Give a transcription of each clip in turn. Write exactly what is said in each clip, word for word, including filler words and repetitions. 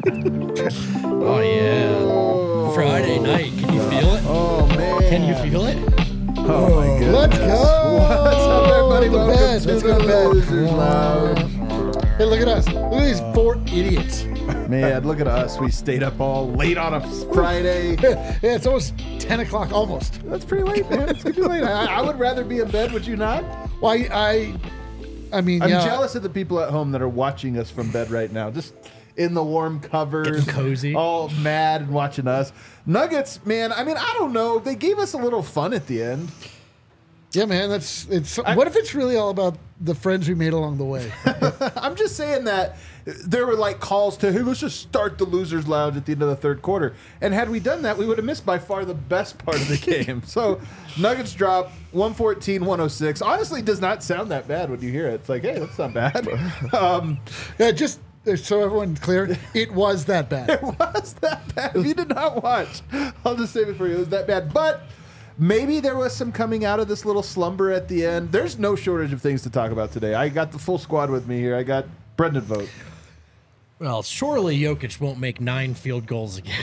Oh, yeah. Friday night. Can you feel it? Oh, man. Can you feel it? Oh, my goodness. Let's go. What's up, everybody? The Welcome bed. to Let's the go to bed. Losers Lounge. Hey, look at us. Look at these four idiots. Man, look at us. We stayed up all late on a Friday. Yeah, it's almost ten o'clock, almost. That's pretty late, man. It's pretty late. I, I would rather be in bed, would you not? Well, I, I, I mean, I'm yeah. jealous of the people at home that are watching us from bed right now. Just in the warm covers. Getting cozy. All mad and watching us. Nuggets, man, I mean, I don't know. They gave us a little fun at the end. Yeah, man, that's it's. I- what if it's really all about the friends we made along the way? I'm just saying that there were like calls to, hey, let's just start the Losers Lounge at the end of the third quarter. And had we done that, we would have missed by far the best part of the game. So Nuggets drop one fourteen one oh six. Honestly, does not sound that bad when you hear it. It's like, hey, that's not bad. Um, Yeah, just so everyone's clear, it was that bad. it was that bad. If you did not watch, I'll just save it for you. It was that bad. But maybe there was some coming out of this little slumber at the end. There's no shortage of things to talk about today. I got the full squad with me here. I got Brendan Vogt. Well, surely Jokic won't make nine field goals again.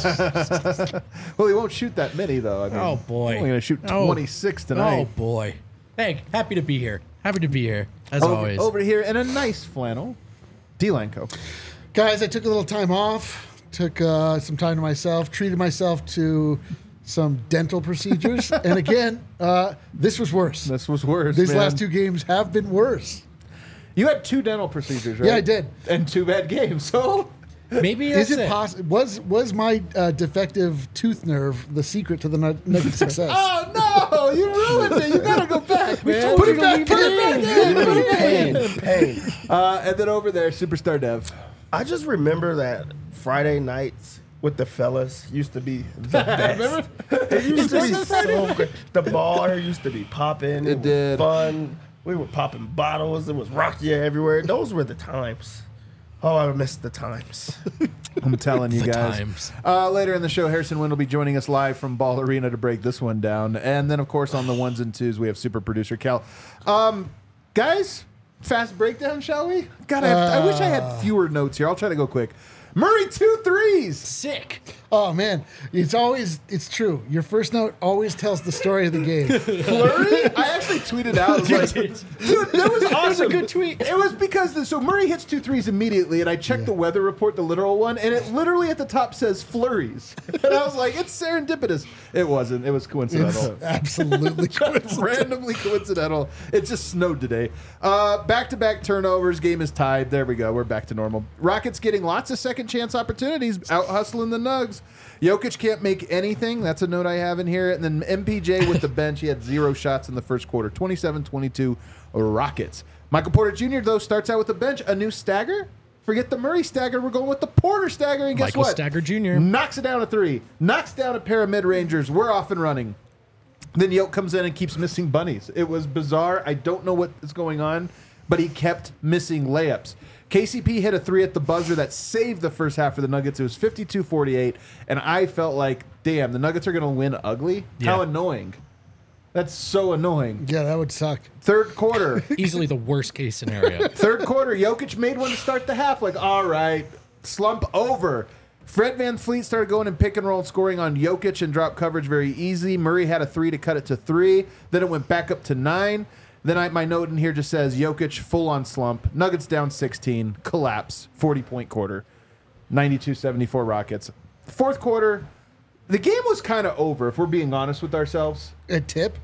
Well, he won't shoot that many, though. I mean, Oh, boy. He's only going to shoot Oh. twenty-six Oh, tonight. boy. Hey, happy to be here. Happy to be here, as over, always. over here in a nice flannel, D-Lanco. Guys, I took a little time off, took uh, some time to myself, treated myself to some dental procedures. And again, uh, this was worse. This was worse, These man. last two games have been worse. You had two dental procedures, right? Yeah, I did. And two bad games, so... Maybe that's Is it it. possible? Was was my uh, defective tooth nerve the secret to the Nug- Nuggets' success? Oh, no! You ruined it! You gotta go back, man. Put it back, put it back in. Put it back in. Pain, pain. Uh, and then over there, Superstar Dev. I just remember that Friday nights with the fellas used to be the best. It used to be so great. The bar used to be popping. It It, was did. fun. We were popping bottles. It was Rocky everywhere. Those were the times. Oh, I missed the times. I'm telling you The guys. times. Uh, later in the show, Harrison Wind will be joining us live from Ball Arena to break this one down. And then, of course, on the ones and twos, we have super producer Cal. Um, guys, fast breakdown, shall we? God, I, have, I wish I had fewer notes here. I'll try to go quick. Murray, two threes. Sick. Oh man, it's always it's true. Your first note always tells the story of the game. Flurry? I actually tweeted out. I was like, dude, that was awesome. a good tweet. It was because, the, so Murray hits two threes immediately, and I checked the weather report, the literal one, and it literally at the top says flurries. And I was like, it's serendipitous. It wasn't. It was coincidental. It's absolutely Randomly coincidental. It just snowed today. Uh, back-to-back turnovers. Game is tied. There we go. We're back to normal. Rockets getting lots of second chance opportunities, out hustling the Nugs. Jokic can't make anything. That's a note I have in here. And then M P J with the bench. He had zero shots in the first quarter. twenty-seven twenty-two Rockets. Michael Porter Junior, though, starts out with the bench. A new stagger. Forget the Murray stagger. We're going with the Porter stagger. And guess Michael what? Stagger Junior Knocks it down a three. Knocks down a pair of mid-rangers. We're off and running. Then Yoke comes in and keeps missing bunnies. It was bizarre. I don't know what is going on, but he kept missing layups. K C P hit a three at the buzzer that saved the first half for the Nuggets. It was fifty-two forty-eight, and I felt like, damn, the Nuggets are going to win ugly? How Yeah. annoying. That's so annoying. Yeah, that would suck. Third quarter. Easily the worst case scenario. Third quarter, Jokic made one to start the half. Like, all right, slump over. Fred VanVleet started going in pick and roll, scoring on Jokic and drop coverage very easy. Murray had a three to cut it to three. Then it went back up to nine. Then I, my note in here just says Jokic full on slump. Nuggets down sixteen, collapse, forty-point quarter, ninety-two seventy-four Rockets. Fourth quarter, the game was kind of over, if we're being honest with ourselves. A tip?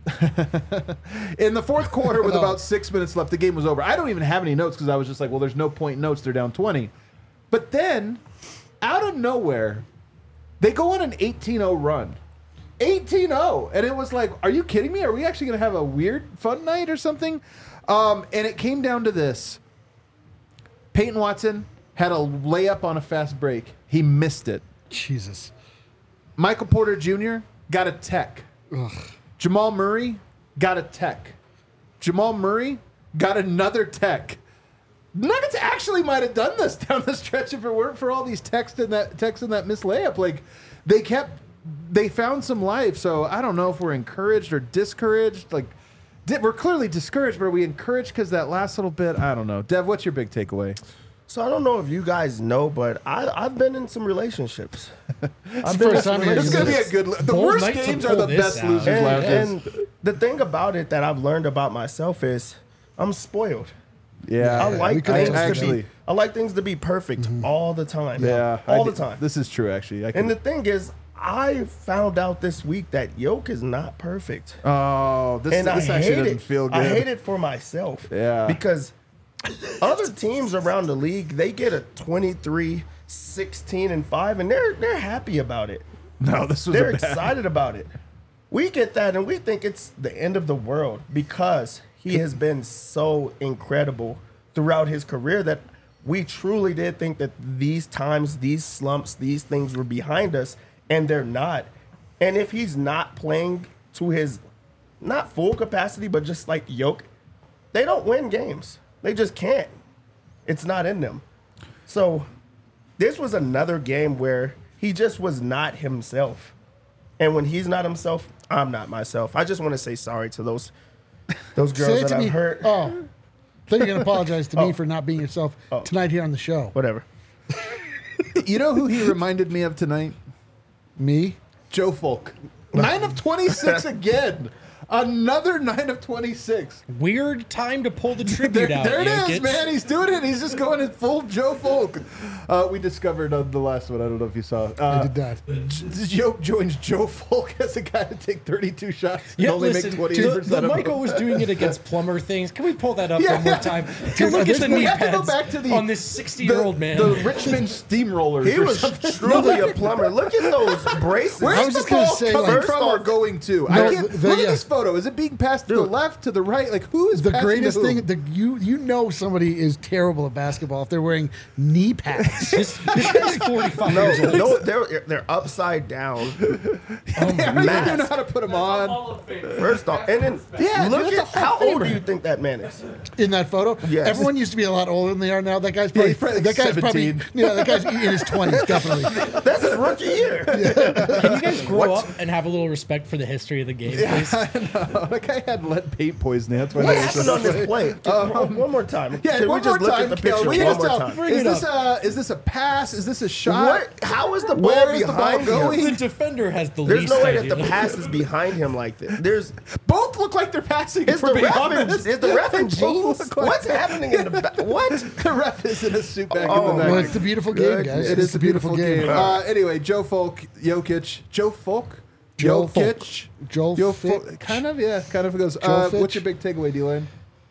In the fourth quarter, with Oh. about six minutes left, the game was over. I don't even have any notes because I was just like, well, there's no point in notes. They're down twenty. But then, out of nowhere, they go on an eighteen oh run. eighteen oh. And it was like, are you kidding me? Are we actually going to have a weird fun night or something? Um, and it came down to this. Peyton Watson had a layup on a fast break. He missed it. Jesus. Michael Porter Junior got a tech. Ugh. Jamal Murray got a tech. Jamal Murray got another tech. Nuggets actually might have done this down the stretch if it weren't for all these texts and that text and that missed layup. Like, they kept, they found some life. So I don't know if we're encouraged or discouraged. Like, di- we're clearly discouraged, but are we encouraged because that last little bit? I don't know. Dev, what's your big takeaway? So I don't know if you guys know, but I, I've been in some relationships. I've the been in first some time It's you gonna be a relationships. good. The Bold worst night to games are pull the this best out. losers And, lounges. and the thing about it that I've learned about myself is I'm spoiled. Yeah, I we like could things actually. to be. I like things to be perfect all the time. Yeah, I all the did- time. This is true, actually. I And can, the thing is, I found out this week that Yoke is not perfect. oh, this, And this I actually hate doesn't it. feel good. I hate it for myself. Yeah. Because other teams around the league, they get a twenty-three, sixteen, and five, and they're they're happy about it. No, this was They're a bad. excited about it. We get that, and we think it's the end of the world because he has been so incredible throughout his career that we truly did think that these times, these slumps, these things were behind us, and they're not. And if he's not playing to his, not full capacity, but just like Yoke, they don't win games. They just can't. It's not in them. So this was another game where he just was not himself. And when he's not himself, I'm not myself. I just want to say sorry to those those Say girls it that to I've me. hurt. Oh, I thought you were going to apologize to Oh. me for not being yourself Oh. tonight here on the show. Whatever. You know who he reminded me of tonight? Me? Joe Folk. Nine of twenty-six again. Another nine of twenty-six. Weird time to pull the tribute There, out. there it is, Jokic. man. He's doing it. He's just going in full Joe Folk. Uh, we discovered on the last one. I don't know if you saw. Uh, I did that. Joe joins Joe Folk as a guy to take thirty-two shots and Yeah, only listen, make twenty-eight the, percent the of them. Michael was doing it against plumber things. Can we pull that up Yeah. one more time? Dude, Look at this- the we knee have to go pads back to the on this sixty-year-old man. The Richmond Steamrollers. He or was something. truly a plumber. Look at those braces. Where's I was the just gonna ball say, coming like- from or going to? I No, can't, the- look yeah. at this photo. Is it being passed to the Dude. left, to the right? Like who is The passing greatest to who? thing, the, you you know somebody is terrible at basketball if they're wearing knee pads. this, this guy's forty-five years No, old. no, they're they're upside down. I don't even know mask. how to put them on. First off, and then Yeah, look dude, at that's a how Hall old of do Famer. you think that man is? In that photo, Yes. everyone used to be a lot older than they are now. That guy's Yeah, probably he's probably that guy's seventeen. probably yeah, that guy's in his twenties definitely. That's his rookie year. Can you guys grow What? up and have a little respect for the history of the game, Yeah, please? I know. That guy had lead paint poisoning. That's why What they were happened so on this play? One, one more time. Yeah, Can one we just more look time, at the Kel. picture Will you one just more tell- time? Bring Is it this up. a is this a pass? Is this a shot? What? How is the ball Where is the ball behind him? going? The defender has the There's least no way that idea. the pass is behind him like this. There's Both look like they're passing. is for the being ref in, honest. is the ref in Both jeans? look like What's that. happening in the back? What? The ref is in a suit back Oh, in the back. Well, it's the beautiful game, guys. It It's is a beautiful game. game. Uh, anyway, Joe Folk, Jokic, Joe Folk, Joe Jokic, Joe Joe Fitch. Folk. Kind of, yeah, kind of goes. Joe Uh, Fitch. what's your big takeaway, D-Lane?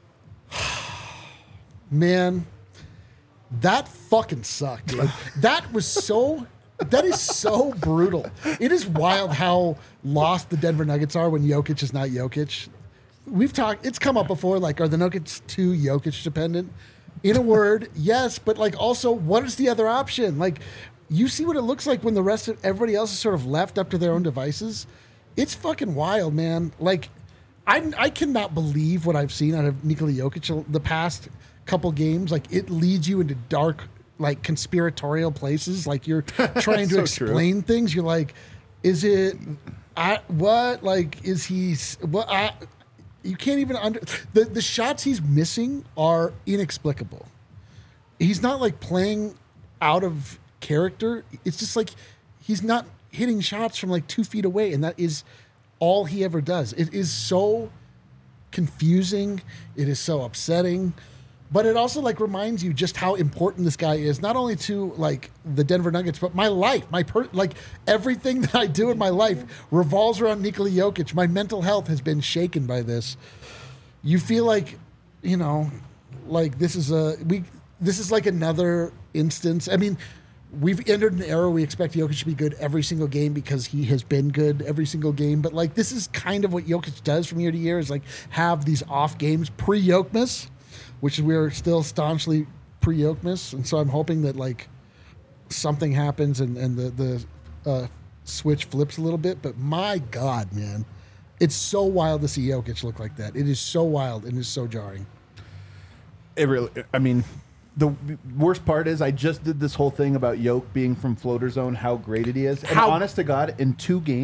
Man, that fucking sucked, dude. That was so. That is so brutal. It is wild how lost the Denver Nuggets are when Jokic is not Jokic. We've talked. It's come up before. Like, are the Nuggets too Jokic dependent? In a word, yes, but like also, what is the other option? Like, you see what it looks like when the rest of everybody else is sort of left up to their own devices. It's fucking wild, man. Like, I I cannot believe what I've seen out of Nikola Jokic the past couple games. Like, it leads you into dark, like conspiratorial places. Like, you're trying to So explain things. You're like, is it I what like is he s- what I you can't even under the the shots he's missing are inexplicable. He's not like playing out of character. It's just like he's not hitting shots from like two feet away, and that is all he ever does. It is so confusing. It is so upsetting. But it also like reminds you just how important this guy is, not only to like the Denver Nuggets, but my life, my per- like everything that I do in my life revolves around Nikola Jokic. My mental health has been shaken by this. You feel like, you know, like this is a we. This is like another instance. I mean, we've entered an era we expect Jokic to be good every single game because he has been good every single game. But like this is kind of what Jokic does from year to year is like have these off games pre-Jokic, which we're still staunchly pre-Jokic. And so I'm hoping that like something happens and, and the, the uh, switch flips a little bit. But my God, man, it's so wild to see Jokic look like that. It is so wild and it's so jarring. It really, I mean, the worst part is I just did this whole thing about Yoke being from floater zone, how great it is. And How- honest to God, in two games,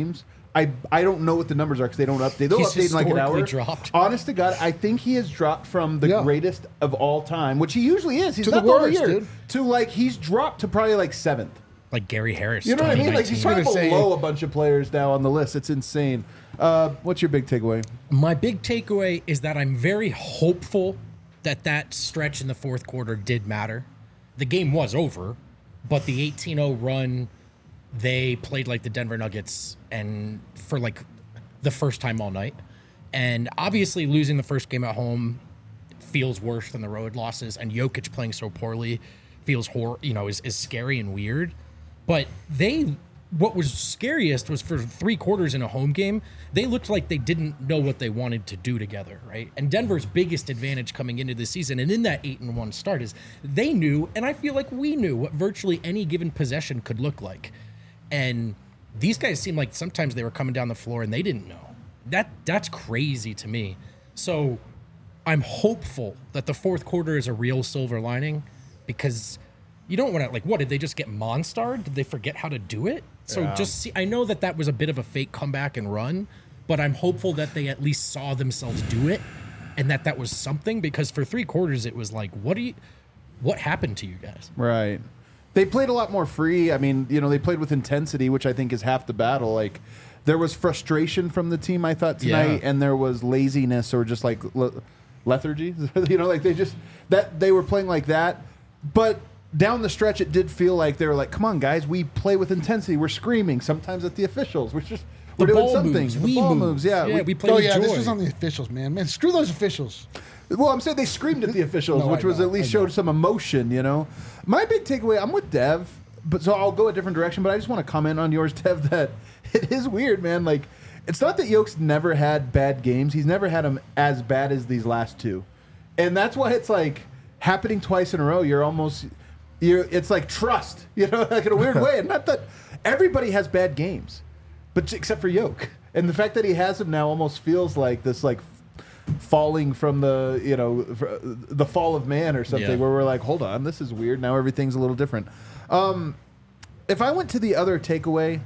I I don't know what the numbers are because they don't update. They'll He's update in like an historically hour. dropped. Honest to God, I think he has dropped from the Yeah. greatest of all time, which he usually is. He's To the not the whole worst, year. dude. To like he's dropped to probably like seventh. Like Gary Harris. You know what I mean? Like he's twenty nineteen. probably gonna say- below a bunch of players now on the list. It's insane. Uh, what's your big takeaway? My big takeaway is that I'm very hopeful that that stretch in the fourth quarter did matter. The game was over, but the eighteen oh run, they played like the Denver Nuggets and for like the first time all night. And obviously losing the first game at home feels worse than the road losses, and Jokic playing so poorly feels hor- you know, is, is scary and weird. But they what was scariest was for three quarters in a home game, they looked like they didn't know what they wanted to do together, right? And Denver's biggest advantage coming into the season and in that eight and one start is they knew, and I feel like we knew, what virtually any given possession could look like. And these guys seem like sometimes they were coming down the floor and they didn't know. That that's crazy to me. So I'm hopeful that the fourth quarter is a real silver lining, because you don't want to, like, what, did they just get monstered? Did they forget how to do it? So Yeah. just see, I know that that was a bit of a fake comeback and run, but I'm hopeful that they at least saw themselves do it and that that was something, because for three quarters it was like, what do you, what happened to you guys? Right. They played a lot more free. I mean, you know, they played with intensity, which I think is half the battle. Like, there was frustration from the team, I thought, tonight, Yeah. and there was laziness or just like le- lethargy. You know, like they just that they were playing like that. But down the stretch, it did feel like they were like, "Come on, guys, we play with intensity. We're screaming sometimes at the officials. We're just we're The doing ball something. moves, the we ball move. moves, yeah. Yeah, we- we play Oh with yeah, joy. this was on the officials, man. Man, screw those officials. Well, I'm saying they screamed at the officials, No, which I was know, at least I know. showed some emotion, you know. My big takeaway, I'm with Dev, but so I'll go a different direction, but I just want to comment on yours, Dev, that it is weird, man. Like, it's not that Yoke's never had bad games. He's never had them as bad as these last two. And that's why it's like happening twice in a row. You're almost, you're, it's like trust, you know, like in a weird way. And not that everybody has bad games, but except for Yoke. And the fact that he has them now almost feels like this, like, falling from the, you know, fr- the fall of man or something, Yeah. where we're like, hold on, this is weird. Now everything's a little different. Um, if I went to the other takeaway,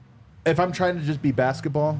if I'm trying to just be basketball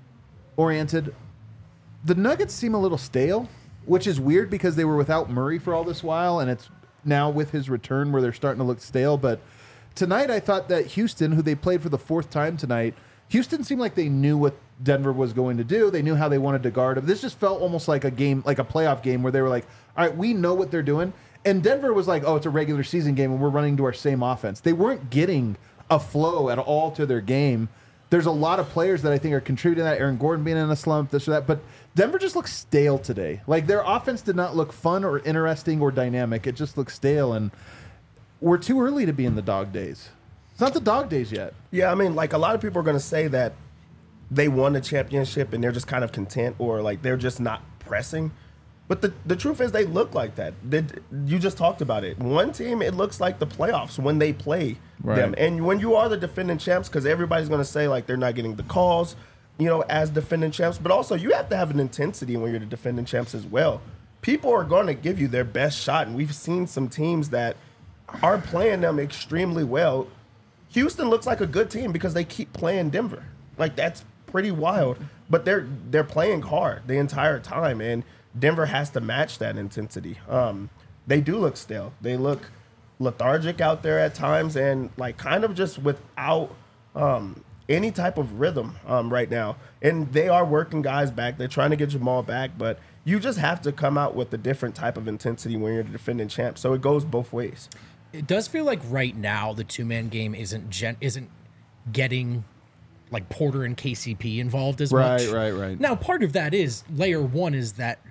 oriented, the Nuggets seem a little stale, which is weird because they were without Murray for all this while, and it's now with his return where they're starting to look stale. But tonight, I thought that Houston, who they played for the fourth time tonight, Houston seemed like they knew what Denver was going to do. They knew how they wanted to guard him. This just felt almost like a game, like a playoff game, where they were like, all right, we know what they're doing. And Denver was like, oh, it's a regular season game, and we're running to our same offense. They weren't getting a flow at all to their game. There's a lot of players that I think are contributing to that. Aaron Gordon being in a slump, this or that. But Denver just looks stale today. Like, their offense did not look fun or interesting or dynamic. It just looks stale, and we're too early to be in the dog days. It's not the dog days yet. Yeah, I mean, like, a lot of people are going to say that they won the championship and they're just kind of content, or like they're just not pressing. But the, the truth is they look like that. They, you just talked about it. One team, it looks like the playoffs when they play Right. them. And when you are the defending champs, because everybody's going to say like they're not getting the calls, you know, as defending champs. But also you have to have an intensity when you're the defending champs as well. People are going to give you their best shot. And we've seen some teams that are playing them extremely well. Houston looks like a good team because they keep playing Denver. Like, that's pretty wild. But they're they're playing hard the entire time, and Denver has to match that intensity. Um, they do look stale. They look lethargic out there at times, and like kind of just without um, any type of rhythm um, right now. And they are working guys back. They're trying to get Jamal back, but you just have to come out with a different type of intensity when you're the defending champ. So it goes both ways. It does feel like right now the two man game isn't gen- isn't getting like Porter and K C P involved as Right, much. right, right. Now, part of that is layer one is that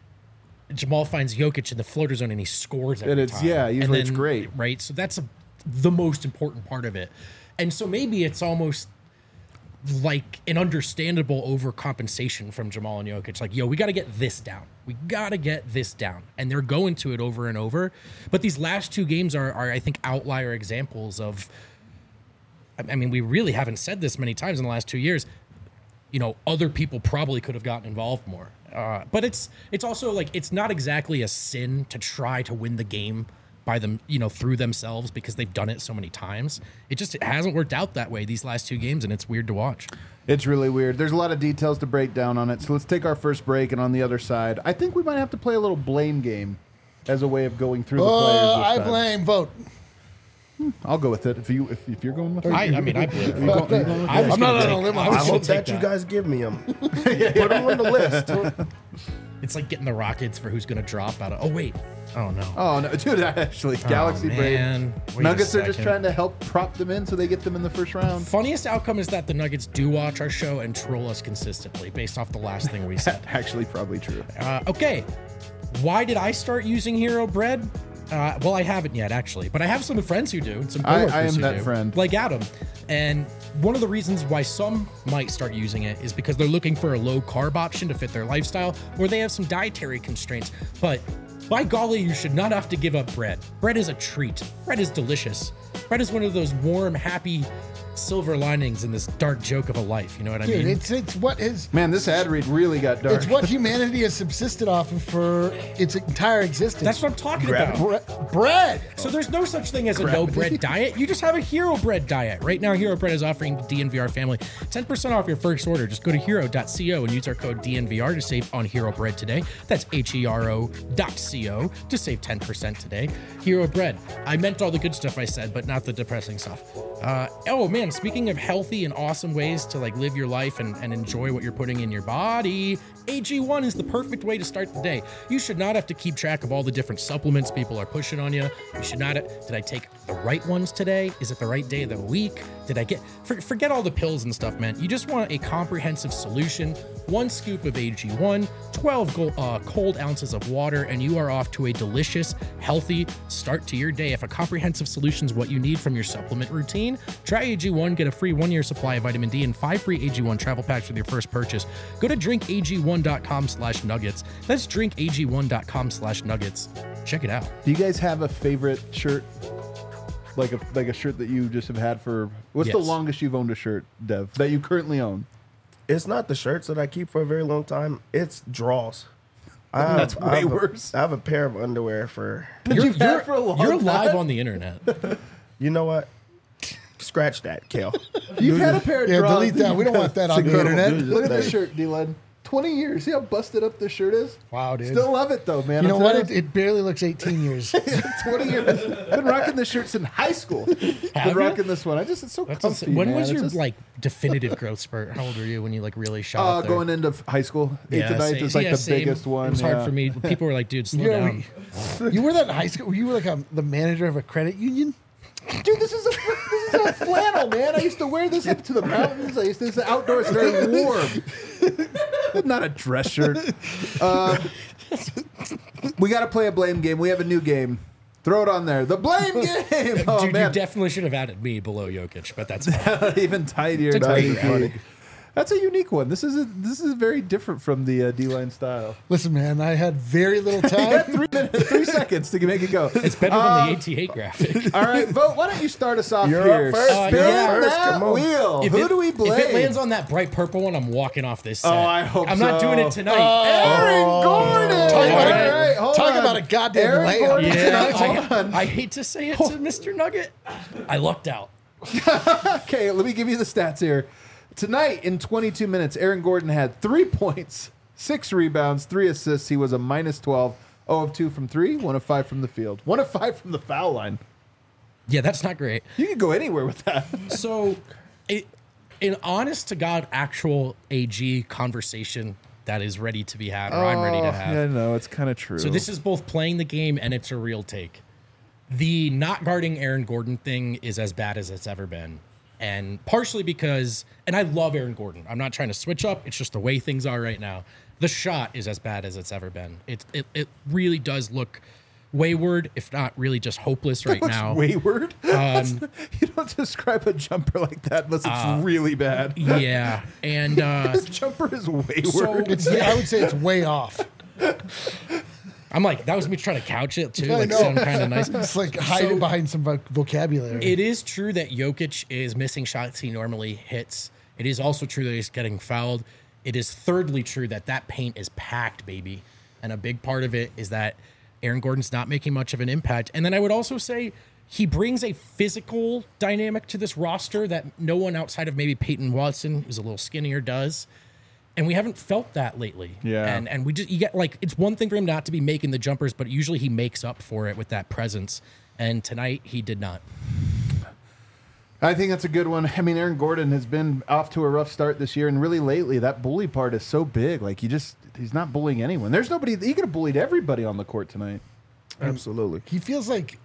Jamal finds Jokic in the floater zone and he scores every And it's- time. yeah, And usually it's then- great. right? So that's a, the most important part of it. And so maybe it's almost like an understandable overcompensation from Jamal and Jokic. Like, yo, we got to get this down. We got to get this down. And they're going to it over and over. But these last two games are, are I think, outlier examples of, I mean, we really haven't said this many times in the last two years. You know, other people probably could have gotten involved more. Uh, but it's it's also like, it's not exactly a sin to try to win the game by them, you know, through themselves because they've done it so many times. It just it hasn't worked out that way these last two games, and it's weird to watch. It's really weird. There's a lot of details to break down on it. So let's take our first break, and on the other side, I think we might have to play a little blame game as a way of going through the players. Oh, this I time. blame. Vote. I'll go with it if you if, if you're going with it. I, I mean, I believe You go- you going with I it? was I'm not gonna on take- a limb. I I was I gonna hope take that you guys give me them. Put them on the list. It's like getting the Rockets for who's going to drop out of. Oh wait, oh no. Oh no, dude! Actually, Galaxy oh, Brave. man. Wait a Nuggets are just second. trying to help prop them in so they get them in the first round. Funniest outcome is that the Nuggets do watch our show and troll us consistently based off the last thing we said. Actually, probably true. Uh, okay, why did I start using Hero Bread? Uh, well, I haven't yet, actually, but I have some friends who do, and some I- I coworkers am who that do, friend. like Adam. And one of the reasons why some might start using it is because they're looking for a low carb option to fit their lifestyle, or they have some dietary constraints. But by golly, you should not have to give up bread. Bread is a treat. Bread is delicious. Bread is one of those warm, happy silver linings in this dark joke of a life. You know what I Dude, mean? it's it's what is Man, this ad read really got dark. it's what humanity has subsisted off of for its entire existence. That's what I'm talking Gravity. about. Bre- bread. So there's no such thing as a no bread diet. You just have a Hero Bread diet. Right now, Hero Bread is offering the D N V R family ten percent off your first order. Just go to hero dot co and use our code D N V R to save on Hero Bread today. That's H E R O dot co to save ten percent today. Hero Bread. I meant all the good stuff I said, but not the depressing stuff. Uh, oh man, speaking of healthy and awesome ways to like live your life and, and enjoy what you're putting in your body, A G one is the perfect way to start the day. You should not have to keep track of all the different supplements people are pushing on you. You should not. Did I take the right ones today? Is it the right day of the week? Did I get? For, forget all the pills and stuff, man. You just want a comprehensive solution. One scoop of A G one, twelve gold, uh, cold ounces of water, and you are off to a delicious, healthy start to your day. If a comprehensive solution is what you need from your supplement routine, try A G one. Get a free one-year supply of vitamin D and five free A G one travel packs with your first purchase. Go to drink A G one dot com slash nuggets. That's drink A G one dot com slash nuggets. Check it out. Do you guys have a favorite shirt? Like a like a shirt that you just have had for what's the Yes. longest you've owned a shirt, Dev, that you currently own? It's not the shirts that I keep for a very long time. It's draws. I have, That's I way have a- worse. I have a pair of underwear for. That You're, you've had you're- for a long you're time? live on the internet. You know what? Scratch that, Kale. You've had a pair of Yeah, draws. delete that. We don't want that on the incredible, internet. dude. Look at this shirt, D-Led. twenty years. See how busted up this shirt is? Wow, dude. Still love it though, man. You know I'm what? telling It, it barely looks eighteen years. twenty years. I've been rocking this shirt since high school. Have been you? rocking this one. I just it's so That's comfy. insane. When man. was It's your just- like definitive growth spurt? How old were you when you like really shot uh, up there? going into f- high school? Eighth to ninth same- is like yeah, the same. biggest one. It was hard yeah. for me. People were like, "Dude, slow Yeah, down." we- you were that in high school? You were like a, the manager of a credit union? Dude, this is a this is a flannel, man. I used to wear this up to the mountains. I used to. This is outdoors, it's very warm. Not a dress shirt. Uh, we got to play a blame game. We have a new game. Throw it on there. The blame game. Oh Dude, man, you definitely should have added me below Jokic, but that's fine. even tidier. It's a tidy. great funny. That's a unique one. This is a, this is very different from the uh, D-line style. Listen, man, I had very little You got time. three minutes, three seconds to make it go. It's better than the A T A graphic. All right, Vote. Why don't you start us off You're here? up first. Uh, Spin yeah. First, that come on. wheel. If Who it- do we blame? If it lands on that bright purple one, I'm walking off this set. Oh, I hope I'm not so. doing it tonight. Aaron Gordon. Talk about, All a, right, hold talk on. about a goddamn Aaron layup. Gordon. yeah, Hold on. I, I hate to say it to Mister Nugget. I lucked out. Okay, let me give you the stats here. Tonight, in twenty-two minutes, Aaron Gordon had three points, six rebounds, three assists. He was a minus twelve, zero of two from three, one of five from the field, one of five from the foul line. Yeah, that's not great. You can go anywhere with that. So, it, an honest to God, actual A G conversation that is ready to be had, or I'm ready to have. Oh, Yeah, no, it's kind of true. So this is both playing the game and it's a real take. The not guarding Aaron Gordon thing is as bad as it's ever been. And partially because, and I love Aaron Gordon. I'm not trying to switch up. It's just the way things are right now. The shot is as bad as it's ever been. It it, it really does look wayward, if not really just hopeless right Looks now. wayward. you don't describe a jumper like that unless it's really bad. Yeah. And uh, This jumper is wayward. so It's, I would say it's way off. I'm like, that was me trying to couch it too. I Like know. sound kind of nice. It's like hiding So- behind some voc- vocabulary. It is true that Jokic is missing shots he normally hits. It is also true that he's getting fouled. It is thirdly true that that paint is packed, baby. And a big part of it is that Aaron Gordon's not making much of an impact. And then I would also say he brings a physical dynamic to this roster that no one outside of maybe Peyton Watson, who's a little skinnier, does. And we haven't felt that lately. Yeah. And and we just, you get like, it's one thing for him not to be making the jumpers, but usually he makes up for it with that presence. And tonight he did not. I think that's a good one. I mean, Aaron Gordon has been off to a rough start this year, and really lately, that bully part is so big. Like, he just, he's not bullying anyone. There's nobody, he could have bullied everybody on the court tonight. Absolutely. He feels like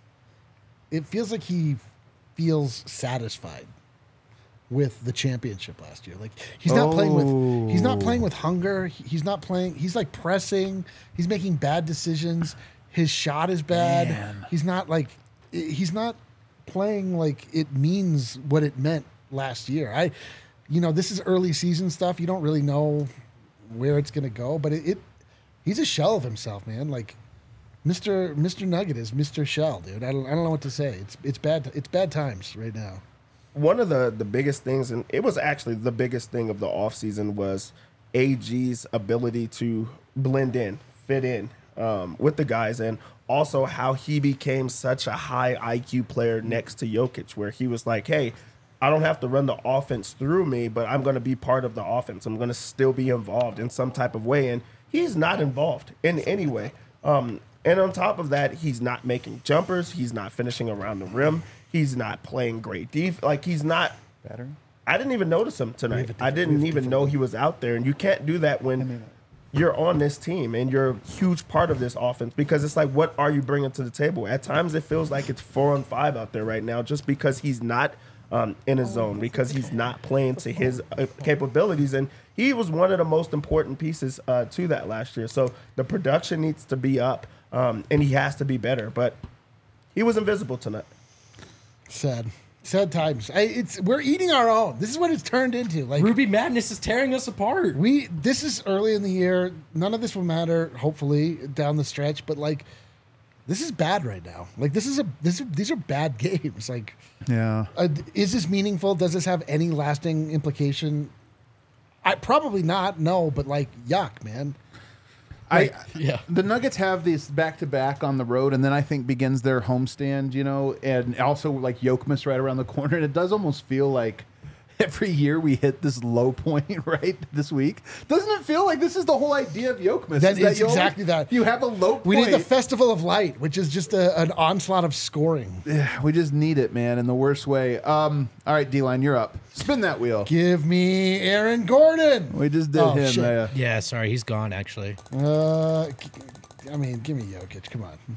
it feels like he feels satisfied with the championship last year. Like he's not playing with he's not playing with hunger. He- He's not playing. He's like pressing. He's making bad decisions. His shot is bad. Man. He's not like i- he's not playing like it means what it meant last year. I, you know, this is early season stuff. You don't really know where it's gonna go, but it, it he's a shell of himself, man. Like Mister Mister Nugget is Mister Shell, dude. I don't I don't know what to say. It's it's bad it's bad times right now. One of the, the biggest things, and it was actually the biggest thing of the offseason, was A G's ability to blend in, fit in um, with the guys, and also how he became such a high I Q player next to Jokic, where he was like, hey, I don't have to run the offense through me, but I'm going to be part of the offense. I'm going to still be involved in some type of way. And he's not involved in any way. Um, and on top of that, he's not making jumpers. He's not finishing around the rim. He's not playing great defense. Like, he's not. Better? I didn't even notice him tonight. a I different- we didn't have a even different know one. he was out there. And you can't do that when you're on this team and you're a huge part of this offense, because it's like, what are you bringing to the table? At times it feels like it's four on five out there right now just because he's not um, in his zone, because he's not playing to his uh, capabilities. And he was one of the most important pieces uh, to that last year. So the production needs to be up, um, and he has to be better. But he was invisible tonight. Sad. Sad times. I, it's we're eating our own. This is what it's turned into. Like Ruby Madness is tearing us apart. we this is early in the year. None of this will matter, hopefully, down the stretch, but like this is bad right now. Like this is a this these are bad games. Like Yeah. uh, is this meaningful? Does this have any lasting implication? I probably not. No, but like yuck, man. I yeah. The Nuggets have these back to back on the road, and then I think begins their homestand, you know, and also like Jokic right around the corner. And it does almost feel like every year we hit this low point right this week. Doesn't it feel like this is the whole idea of Jokic? That is you always- exactly that. You have a low point. We need the Festival of Light, which is just a, an onslaught of scoring. we just need it, man, in the worst way. Um, all right, D-Line, you're up. Spin that wheel. Give me Aaron Gordon. We just did Oh, him. shit. Uh, Yeah, sorry, he's gone actually. Uh, I mean, give me Jokic. Come on.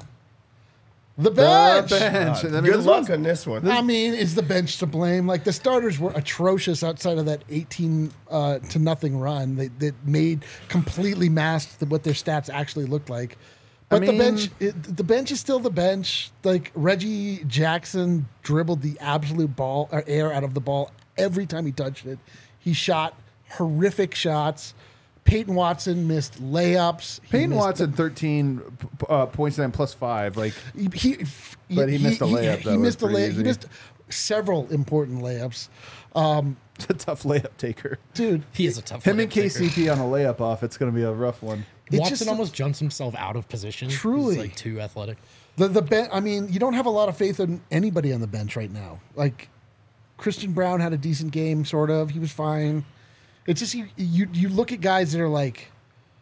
The the bench. bench. And I mean, Good this luck one's- on this one. I mean, is the bench to blame? Like the starters were atrocious outside of that eighteen uh, to nothing run. They that made completely masked what their stats actually looked like. But the mean- bench, it, the bench is still the bench. Like Reggie Jackson dribbled the absolute ball or air out of the ball every time he touched it. He shot horrific shots. Peyton Watson missed layups. He Peyton missed- Watson, thirteen p- uh, points and plus five. Like, He, he, But he missed a layup, He, though. he It was missed a pretty layup. He easy. missed several important layups. Um, it's a tough layup taker. dude, He is a tough Him layup and taker. K C P on a layup off. It's going to be a rough one. It's Watson just- almost jumps himself out of position. Truly. He's like too athletic. the the ben- I mean, you don't have a lot of faith in anybody on the bench right now. Like Christian Brown had a decent game, sort of. He was fine. It's just you you, you look at guys that are like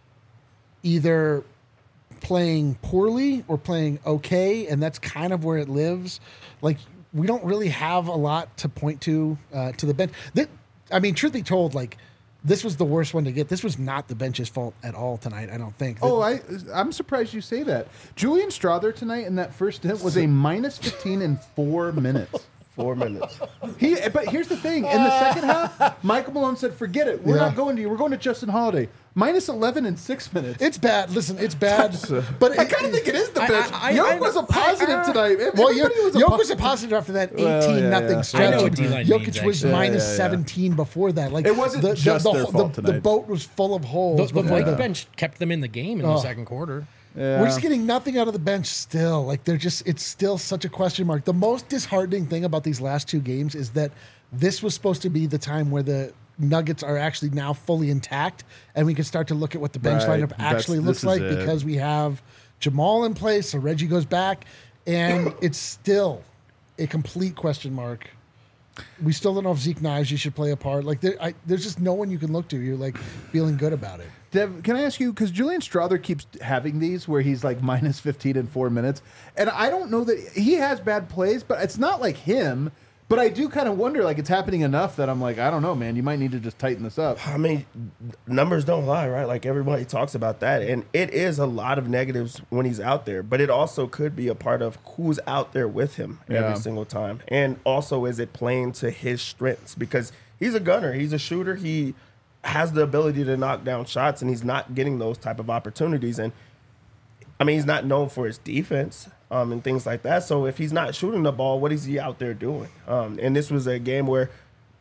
either playing poorly or playing okay, and that's kind of where it lives. Like we don't really have a lot to point to uh, to the bench. That, I mean, truth be told, like this was the worst one to get. This was not the bench's fault at all tonight. I don't think. Oh, I, I'm surprised you say that. Julian Strother tonight in that first hit was a minus fifteen in four minutes. Four minutes. He, but here's the thing: in the second half, Michael Malone said, "Forget it. We're Yeah. not going to you. We're going to Justin Holiday." Minus eleven in six minutes. It's bad. Listen, it's bad. But I kind of think it is the I- bench. I- I- Yoke I- was a positive I- I- tonight. Well, Everybody Yoke was a Yoke po- was a positive after that eighteen Well, yeah, nothing yeah. stretch. I know what D-line Jokic means, was actually. minus Yeah, yeah, yeah. seventeen before that. Like It wasn't just their the, fault the, tonight. boat was full of holes. The, the before Vikes that. bench kept them in the game in Oh. the second quarter. Yeah. We're just getting nothing out of the bench still. Like they're just it's still such a question mark. The most disheartening thing about these last two games is that this was supposed to be the time where the Nuggets are actually now fully intact and we can start to look at what the bench Right. lineup That's- actually this looks is like it. because we have Jamal in place, so Reggie goes back, and it's still a complete question mark. We still don't know if Zeke Nnaji should play a part. Like there, I, there's just no one you can look to. You're like feeling good about it. Dev, can I ask you, because Julian Strother keeps having these where he's like minus fifteen in four minutes, and I don't know that he has bad plays, but it's not like him. But I do kind of wonder, like, it's happening enough that I'm like, I don't know, man. You might need to just tighten this up. I mean, numbers don't lie, right? Like, everybody talks about that. And it is a lot of negatives when he's out there. But it also could be a part of who's out there with him Yeah. every single time. And also, is it playing to his strengths? Because he's a gunner. He's a shooter. He has the ability to knock down shots, and he's not getting those type of opportunities. And, I mean, he's not known for his defense. Um, and things like that. So if he's not shooting the ball, what is he out there doing? Um, and this was a game where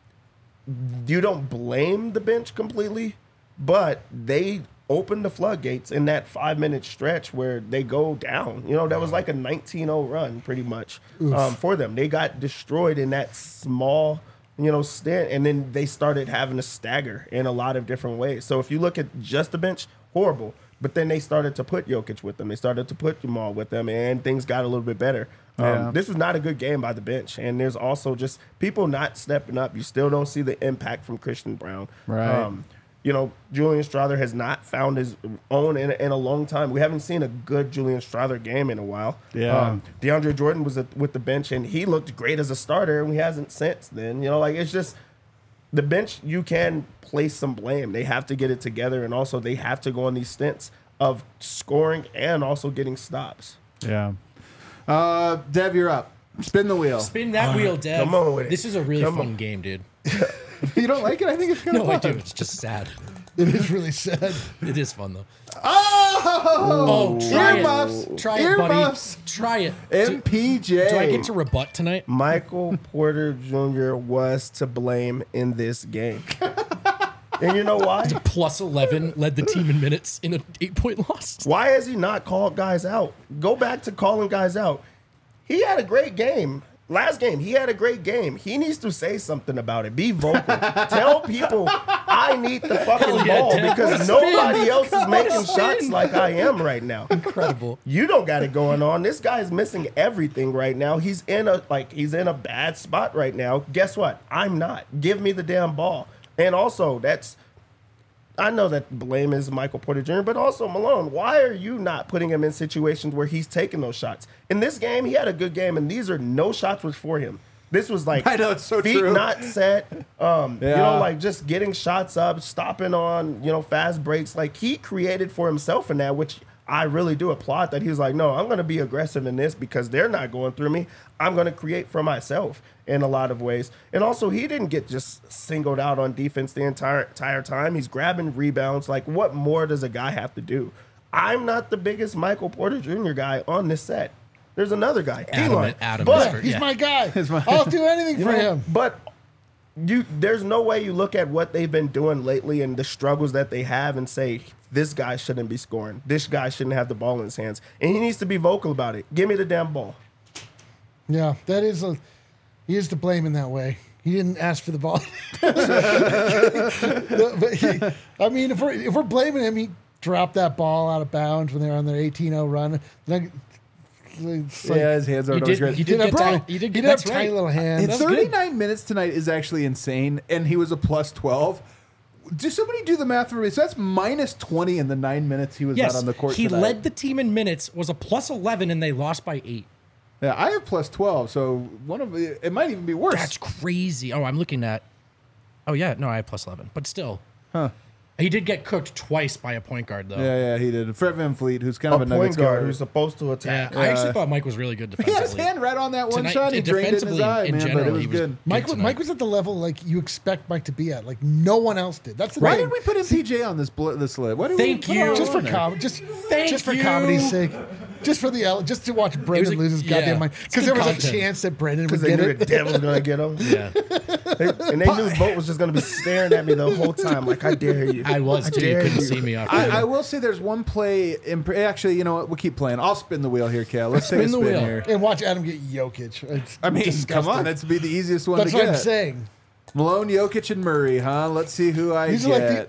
you don't blame the bench completely, but they opened the floodgates in that five-minute stretch where they go down. You know, that was like a nineteen oh run pretty much um, for them. They got destroyed in that small, you know, stint, and then they started having to stagger in a lot of different ways. So if you look at just the bench, horrible. But then they started to put Jokic with them. They started to put Jamal with them, and things got a little bit better. Um, Yeah. This was not a good game by the bench. And there's also just people not stepping up. You still don't see the impact from Christian Brown. Right. Um, you know, Julian Strother has not found his own in, in a long time. We haven't seen a good Julian Strother game in a while. Yeah. Um, DeAndre Jordan was at, with the bench, and he looked great as a starter, and he hasn't since then. You know, like, it's just the bench, you can place some blame. They have to get it together, and also they have to go on these stints of scoring and also getting stops. Yeah. Uh, Dev, you're up. Spin the wheel. Spin that wheel, Dev. come on with it. This is a really Come fun on. game, dude. You don't like it? I think it's kind of No, I fun. do. It's just sad. It is really sad. It is fun though. Oh! Oh, try Earmuffs. it. Try it, buddy. Earmuffs. Try it. M P J. Do, do I get to rebut tonight? Michael Porter Junior was to blame in this game. And you know why? Plus eleven led the team in minutes in an eight-point loss. Why has he not called guys out? Go back to calling guys out. He had a great game. Last game, he had a great game. He needs to say something about it. Be vocal. Tell people I need the fucking Hell yeah, ball Dev. because Spin. nobody else is Come on, making spin. shots like I am right now. Incredible. You don't got it going on. This guy's missing everything right now. He's in a like he's in a bad spot right now. Guess what? I'm not. Give me the damn ball. And also, that's I know that blame is Michael Porter Junior, but also Malone. Why are you not putting him in situations where he's taking those shots? In this game, he had a good game, and these are no shots was for him. This was like I know, it's so feet true. not set. Um, You Yeah. know, like just getting shots up, stopping on you know fast breaks. Like he created for himself in that, which I really do applaud. That he was like, no, I'm going to be aggressive in this because they're not going through me. I'm going to create for myself in a lot of ways. And also, he didn't get just singled out on defense the entire entire time. He's grabbing rebounds. Like, what more does a guy have to do? I'm not the biggest Michael Porter Junior guy on this set. There's another guy, Adam- Elon. Adam but is for- He's Yeah. my guy. my- I'll do anything you for know, him. But you, there's no way you look at what they've been doing lately and the struggles that they have and say this guy shouldn't be scoring. This guy shouldn't have the ball in his hands, and he needs to be vocal about it. Give me the damn ball. Yeah, that is a. He is to blame in that way. He didn't ask for the ball. But he, I mean, if we're if we're blaming him, he dropped that ball out of bounds when they were on their eighteen oh run. Then it's like, Yeah, his hands You aren't always did, great. you did have get probably- tiny, you did he'd get have that's tiny right. little hands. And That's good. thirty-nine minutes tonight is actually insane, and he was a plus twelve. Do somebody do the math for me? So that's minus twenty in the nine minutes he was Yes, out on the court he tonight. led the team in minutes, was a plus eleven, and they lost by eight. Yeah, I have plus twelve, so one of the, it might even be worse. That's crazy. Oh, I'm looking at. Oh yeah, no, I have plus eleven, but still, Huh. he did get cooked twice by a point guard though. Yeah, yeah, he did. Fred Van Fleet, who's kind A of a point Nuggets guard guard. who's supposed to Yeah, attack. I actually thought Mike was really good He had his defensively. hand right on that one Tonight, shot. He drained it in his defensively, eye, in man, but general, it was he was- good. Mike, tonight. Mike was at the level like you expect Mike to be at. Like no one else did. That's the Why thing. did we put M P J on this bl- this list? Why did Thank we put you. him just for on there? com- just Thank just for you. comedy's sake, just for the L- just to watch Brendan like- lose his goddamn yeah, mind it's because good there was content. a chance that Brendan would Because they get knew it. the devil was going to get him. Yeah, They- and they knew Vogt was just going to be staring at me the whole time, like, I dare you. I was too. You dare couldn't you. see me off. I, I will say there's one play. Imp- actually, you know what? We'll keep playing. I'll spin the wheel here, Cal. Let's take a Spin the spin wheel. here. And watch Adam get Jokic. It's I mean, disgusting. come on. That's be the easiest one That's to what get. I'm saying. Malone, Jokic, and Murray, huh? Let's see who I These are get. like the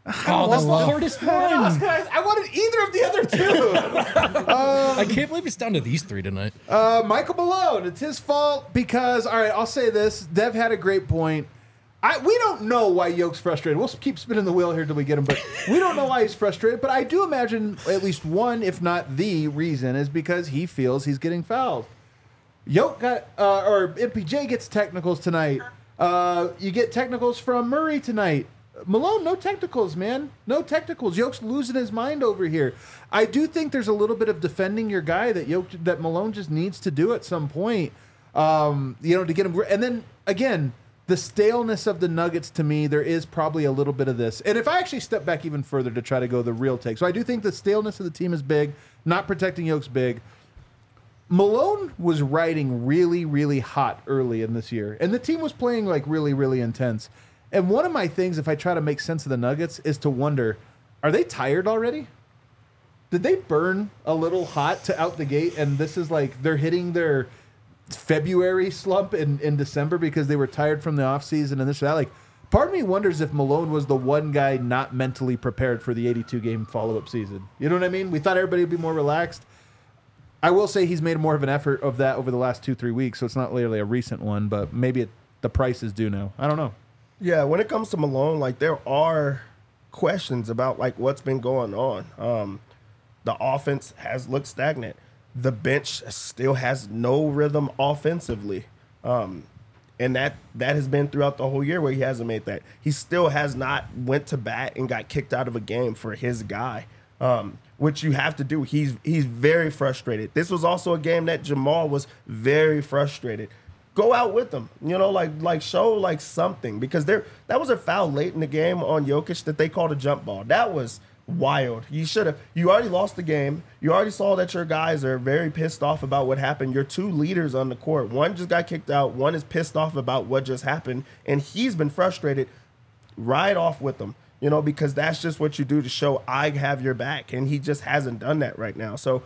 Oh, that's the love- hardest one. I wanted either of the other two. I can't believe it's down to these three tonight. Uh, Michael Malone, it's his fault because, all right, I'll say this. Dev had a great point. I, we don't know why Yoke's frustrated. We'll keep spinning the wheel here till we get him, but we don't know why he's frustrated. But I do imagine at least one, if not the reason, is because he feels he's getting fouled. Yoke got, uh, or M P J gets technicals tonight. Uh, you get technicals from Murray tonight. Malone, no technicals, man. No technicals. Yoke's losing his mind over here. I do think there's a little bit of defending your guy that Yoke, that Malone just needs to do at some point. Um, you know, to get him. And then again, the staleness of the Nuggets to me, there is probably a little bit of this. And if I actually step back even further to try to go the real take, so I do think the staleness of the team is big. Not protecting Yoke's big. Malone was riding really, really hot early in this year, and the team was playing like really, really intense. And one of my things, if I try to make sense of the Nuggets, is to wonder, are they tired already? Did they burn a little hot to out the gate, and this is like they're hitting their February slump in, in December because they were tired from the offseason and this or that? Like, part of me wonders if Malone was the one guy not mentally prepared for the eighty-two game follow-up season. You know what I mean? We thought everybody would be more relaxed. I will say he's made more of an effort of that over the last two, three weeks, so it's not really a recent one, but maybe it, the price is due now. I don't know. Yeah, when it comes to Malone, like there are questions about like what's been going on. Um, the offense has looked stagnant. The bench still has no rhythm offensively, um, and that that has been throughout the whole year where he hasn't made that. He still has not went to bat and got kicked out of a game for his guy, um, which you have to do. He's he's very frustrated. This was also a game that Jamal was very frustrated. Go out with them, you know, like like show like something, because there that was a foul late in the game on Jokic that they called a jump ball. That was wild. You should have. You already lost the game. You already saw that your guys are very pissed off about what happened. Your two leaders on the court, one just got kicked out. One is pissed off about what just happened, and he's been frustrated. Ride off with them, you know, because that's just what you do to show I have your back, and he just hasn't done that right now. So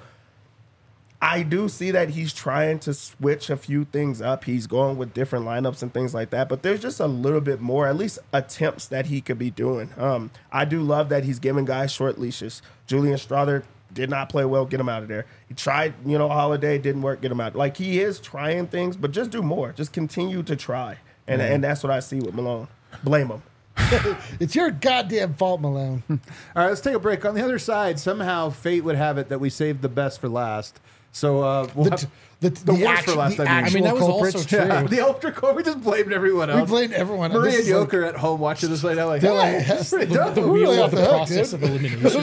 I do see that he's trying to switch a few things up. He's going with different lineups and things like that. But there's just a little bit more, at least attempts that he could be doing. Um, I do love that he's giving guys short leashes. Julian Strother did not play well. Get him out of there. He tried, you know, Holiday, didn't work. Get him out. Like, he is trying things, but just do more. Just continue to try. And, mm-hmm. and that's what I see with Malone. Blame him. It's your goddamn fault, Malone. All right, let's take a break. On the other side, somehow fate would have it that we saved the best for last. So uh, we'll The, have t- the, the, the worst actu- for last. the I mean, I mean, that was culprits. also true. Yeah, the ultra core. We just blamed everyone else. We blamed everyone. Maria This and is like- Yoker at home watching this right now, like, They're hey, like, this is pretty The, dumb. the Who wheel really of the off the hook, process of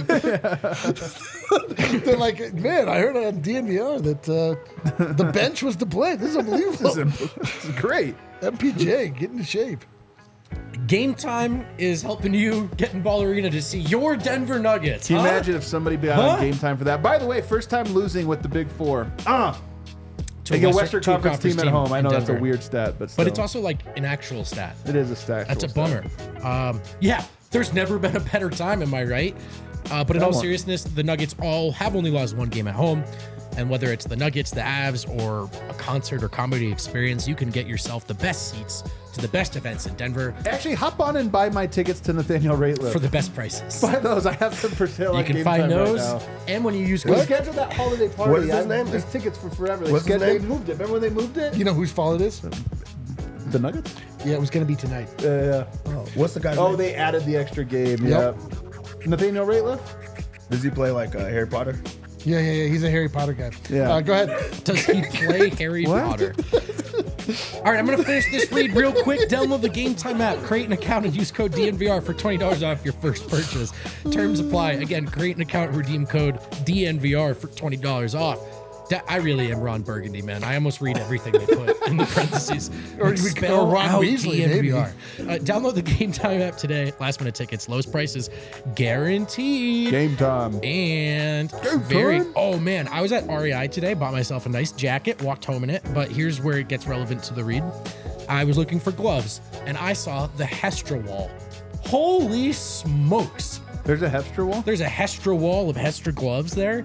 elimination. They're like, man, I heard on D N V R that uh, the bench was to blame. This is unbelievable. This is great. M P J, get into shape. Game Time is helping you get in Ball Arena to see your Denver Nuggets. Can you huh? imagine if somebody be out Huh? on game time for that? By the way, first time losing with the Big Four. Ah, To like a Western- Western to a Conference team at home. I in know that's a Denver. weird stat, but still. But it's also like an actual stat. it is a stat. That's a bummer. Um, yeah, there's never been a better time, am I right? Uh, but in all Somewhat. seriousness, the Nuggets all have only lost one game at home. And whether it's the Nuggets, the Avs, or a concert or comedy experience, you can get yourself the best seats to the best events in Denver Actually, hop on and buy my tickets to Nathaniel Rateliff. for the best prices. Buy those. I have them for sale. You on can Game find Time right those. now. And when you use We code, scheduled that holiday party. What is his I- name? There's tickets for forever. They, What's his scheduled- name? they moved it. Remember when they moved it? You know whose fault it is? The Nuggets? Yeah, it was going to be tonight. Yeah, yeah. Oh, what's the guy's Oh, name? they added the extra game. Yep. Yeah. Nathaniel Rateliff? Does he play like uh, Harry Potter? Yeah, yeah, yeah. He's a Harry Potter guy. Yeah. Uh, go ahead. does he play Harry What? Potter? All right, I'm going to finish this read real quick. Download the Game Time app, create an account, and use code D N V R for twenty dollars off your first purchase. Terms apply. Again, create an account, redeem code D N V R for twenty dollars off. That, I really am Ron Burgundy, man. I almost read everything they put in the parentheses. Or Like, we could spell go Ron out Weasley, D N V R. maybe. Uh, download the Game Time app today. Last minute tickets, lowest prices, guaranteed. Game time. And very, oh man, I was at R E I today, bought myself a nice jacket, walked home in it, but here's where it gets relevant to the read. I was looking for gloves, and I saw the Hestra wall. Holy smokes. There's a Hestra wall? There's a Hestra wall of Hestra gloves there.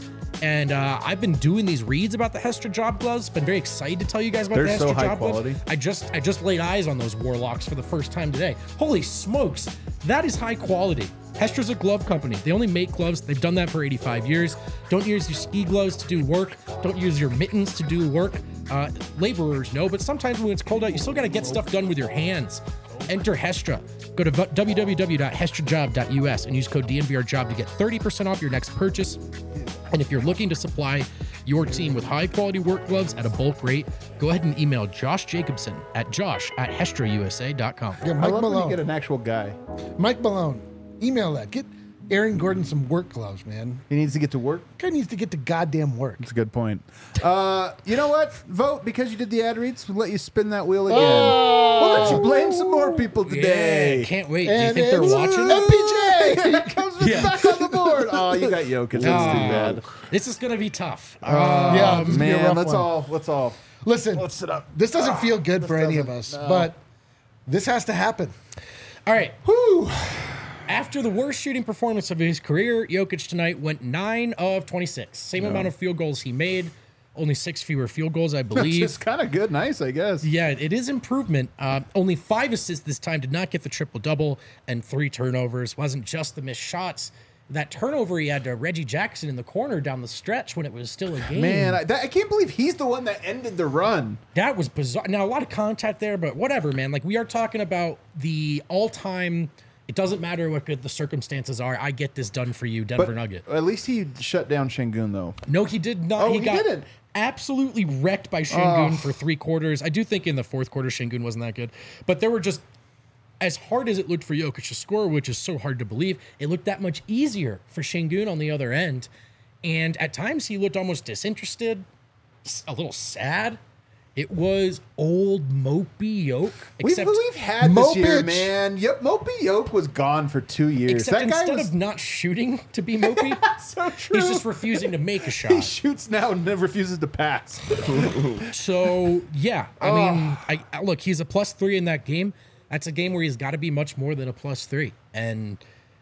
And uh, I've been doing these reads about the Hestra job gloves. Been very excited to tell you guys about They're the Hestra so high job quality. gloves. I just I just laid eyes on those Warlocks for the first time today. Holy smokes, that is high quality. Hestra's a glove company. They only make gloves. They've done that for eighty-five years. Don't use your ski gloves to do work. Don't use your mittens to do work. Uh, laborers know, but sometimes when it's cold out, you still got to get stuff done with your hands. Enter Hestra. Go to w w w dot hestra job dot u s and use code D N V R job to get thirty percent off your next purchase. And if you're looking to supply your team with high quality work gloves at a bulk rate, go ahead and email Josh Jacobson at josh at hestra u s a dot com. Yeah, I Mike love when you Malone. get an actual guy. Mike Malone. Email that. Get Aaron Gordon some work gloves, man. He needs to get to work. Guy needs to get to goddamn work. That's a good point. Uh, you know what? Vote because you did the ad reads. We'll let you spin that wheel again. Oh. We'll let you blame some more people today. Yeah, can't wait. Do you And think they're it's watching? M P J. Here comes Yeah. back on the board. Oh, you got Jokic. That's Oh, too bad. This is gonna be tough. yeah, this is gonna be a Man, rough let's one. all let's all Listen. let's sit up. This doesn't feel good for any of us, doesn't. No. but this has to happen. All right. Whew. After the worst shooting performance of his career, Jokic tonight went nine of twenty-six. Same amount of field goals he made, only six fewer field goals, I It's believe. just kind of good, nice, I guess. Yeah, it is improvement. Uh, only five assists this time, did not get the triple-double, and three turnovers. Wasn't just the missed shots. That turnover he had to Reggie Jackson in the corner down the stretch when it was still a game. Man, I, that, I can't believe he's the one that ended the run. That was bizarre. Now, a lot of contact there, but whatever, man. Like, we are talking about the all-time... It doesn't matter what good the circumstances are. I get this done for you, Denver But Nugget. at least he shut down Şengün, though. No, he did not. Oh, he, he got didn't? absolutely wrecked by Şengün for three quarters. I do think in the fourth quarter, Şengün wasn't that good. But there were just, as hard as it looked for Jokic to score, which is so hard to believe, it looked that much easier for Şengün on the other end. And at times he looked almost disinterested, s- a little sad. It was old mopey Yoke. We've, Except, we've had this year, Mopich. man. Yep, Mopey Yoke was gone for two years. except that guy instead was of not shooting to be mopey, so true. he's just refusing to make a he shot. shoots now and then refuses to pass. So yeah, I mean, I, I look, he's a plus three in that game. That's a game where he's got to be much more than a plus three. And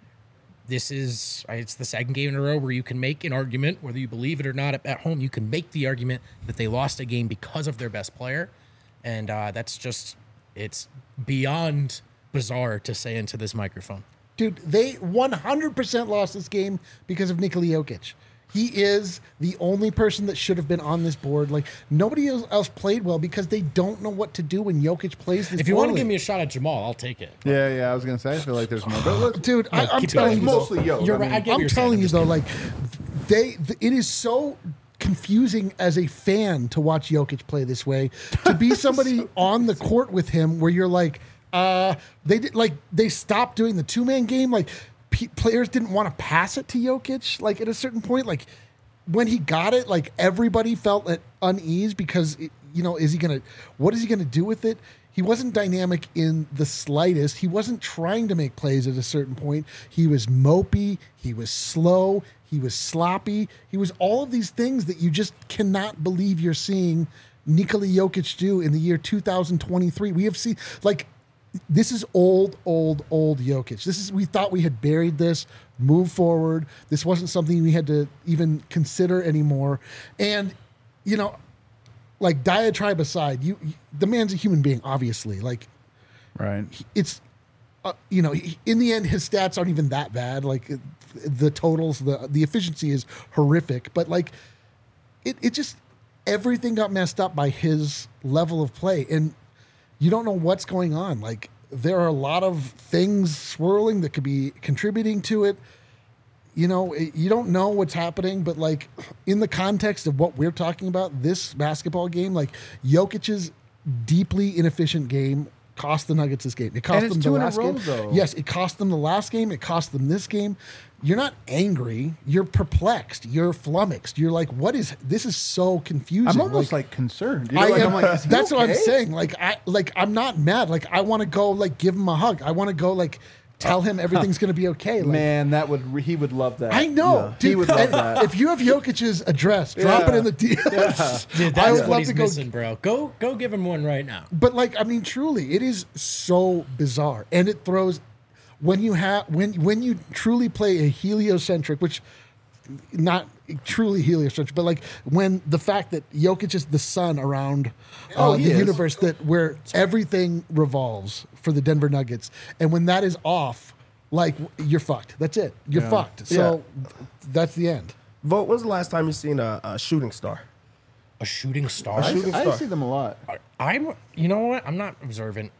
this is it's the second game in a row where you can make an argument, whether you believe it or not. At, at home, you can make the argument that they lost a game because of their best player, and uh, that's just it's beyond bizarre to say into this microphone. Dude, they one hundred percent lost this game because of Nikola Jokic. He is the only person that should have been on this board. Like, nobody else else played well because they don't know what to do when Jokic plays this If you want to poorly. give me a shot at Jamal, I'll take it. Yeah, yeah, I was gonna say. I feel like there's more. But look, Dude, I, I'm keep telling it's you, mostly though, Yoke. You're I right. mean, I get what I'm you're saying. telling I'm you just though, kidding. like they, th- it is so confusing as a fan to watch Jokic play this way. To be somebody on the court with him, where you're like, uh, they did like they stopped doing the two man game. Like p- players didn't want to pass it to Jokic. Like at a certain point, like when he got it, like everybody felt at unease because it, you know, is he gonna? What is he gonna do with it? He wasn't dynamic in the slightest. He wasn't trying to make plays at a certain point. He was mopey. He was slow. He was sloppy. He was all of these things that you just cannot believe you're seeing Nikola Jokic do in the year two thousand twenty-three. We have seen, like, this is old, old, old Jokic. This is, we thought we had buried this, move forward. This wasn't something we had to even consider anymore. And, you know, like, diatribe aside, you, you the man's a human being, obviously. Like, right. it's, uh, you know, he- in the end, his stats aren't even that bad. Like, the totals, the the efficiency is horrific. But, like, it, it just, everything got messed up by his level of play. And you don't know what's going on. Like, there are a lot of things swirling that could be contributing to it. You know, it- you don't know what's happening, but like in the context of what we're talking about, this basketball game, like Jokic's deeply inefficient game cost the Nuggets this game. It cost And it's them two the in a last row, game. though. Yes, it cost them the last game. It cost them this game. You're not angry. You're perplexed. You're flummoxed. You're like, what is this? Is so confusing. I'm almost like, concerned. You know, I like, am, I'm like, is he that's what I'm okay? saying. Like I like I'm not mad. Like I want to go like give him a hug. I want to go like tell him everything's gonna be okay. Like, Man, that would he would love that. I know, Yeah. dude. He would love and that. If you have Jokic's address, drop it Yeah. in the D Ms. Dude, I that's would what love he's to go. missing, bro. Go, go, give him one right now. But like, I mean, truly, it is so bizarre, and it throws when you have when when you truly play a heliocentric, which not truly heliocentric, but like when the fact that Jokic is the sun around uh, Oh, he the is. universe that where everything revolves for the Denver Nuggets, and when that is off, like you're fucked. That's it. You're Yeah. fucked. So that's the end. Vote. When's the last time you seen a, a shooting star? A shooting star. I, shooting I star. see them a lot. I'm. You know what? I'm not observant.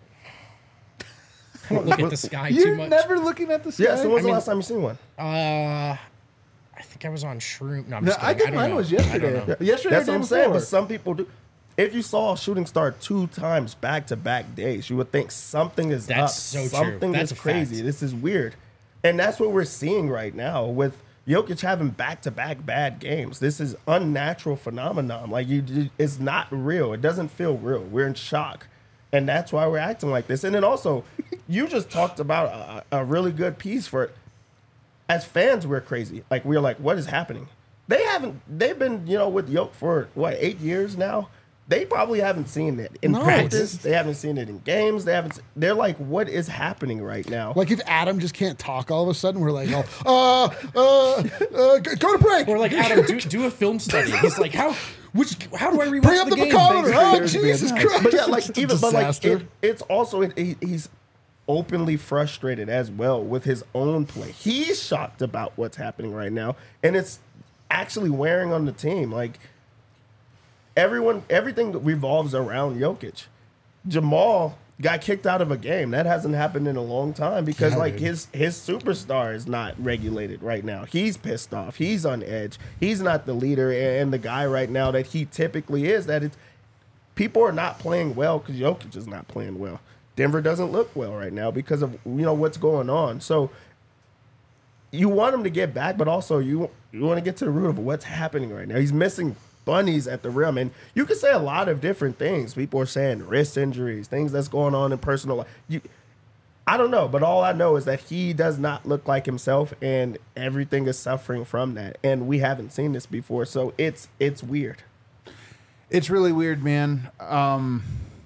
I don't look at the sky You're too much. never looking at the sky. Yeah. So when's I mean- the last time you seen one? Uh, I think I was on shroom. No, I'm No, just I kidding. think don't mine know. was I don't yesterday. know. Yesterday, That's or what I'm day saying. But before. some people do. If you saw a shooting star two times back to back days, you would think something is That's up. so true. Something That's is a crazy. fact. This is weird, and that's what we're seeing right now with Jokic having back to back bad games. This is unnatural phenomenon. Like you, it's not real. It doesn't feel real. We're in shock, and that's why we're acting like this. And then also, you just talked about a, a really good piece for it. As fans, we're crazy. Like we're like, what is happening? They haven't. They've been, you know, with Yoke for what eight years now. They probably haven't seen it in No. practice. They haven't seen it in games. They haven't. They're like, what is happening right now? Like if Adam just can't talk all of a sudden, we're like, oh, uh, uh, uh, go go to break. Or like Adam, do, do a film study. He's like, how? Which? How do I rewatch Bring up the, the game? bacometer. Oh, years to be Jesus a- Christ. but yeah, like even but like Disaster. it, it's also it, he, he's openly frustrated as well with his own play. He's shocked about what's happening right now, and it's actually wearing on the team. Like everyone, everything revolves around Jokic. Jamal got kicked out of a game. That hasn't happened in a long time because Yeah, like dude. his his superstar is not regulated right now. He's pissed off. He's on edge. He's not the leader and the guy right now that he typically is. That it's people are not playing well because Jokic is not playing well. Denver doesn't look well right now because of you know what's going on. So you want him to get back, but also you you want to get to the root of what's happening right now. He's missing bunnies at the rim, and you can say a lot of different things. People are saying wrist injuries, things that's going on in personal life. You, I don't know, but all I know is that he does not look like himself, and everything is suffering from that. And we haven't seen this before, so it's it's weird. It's really weird, man. Um,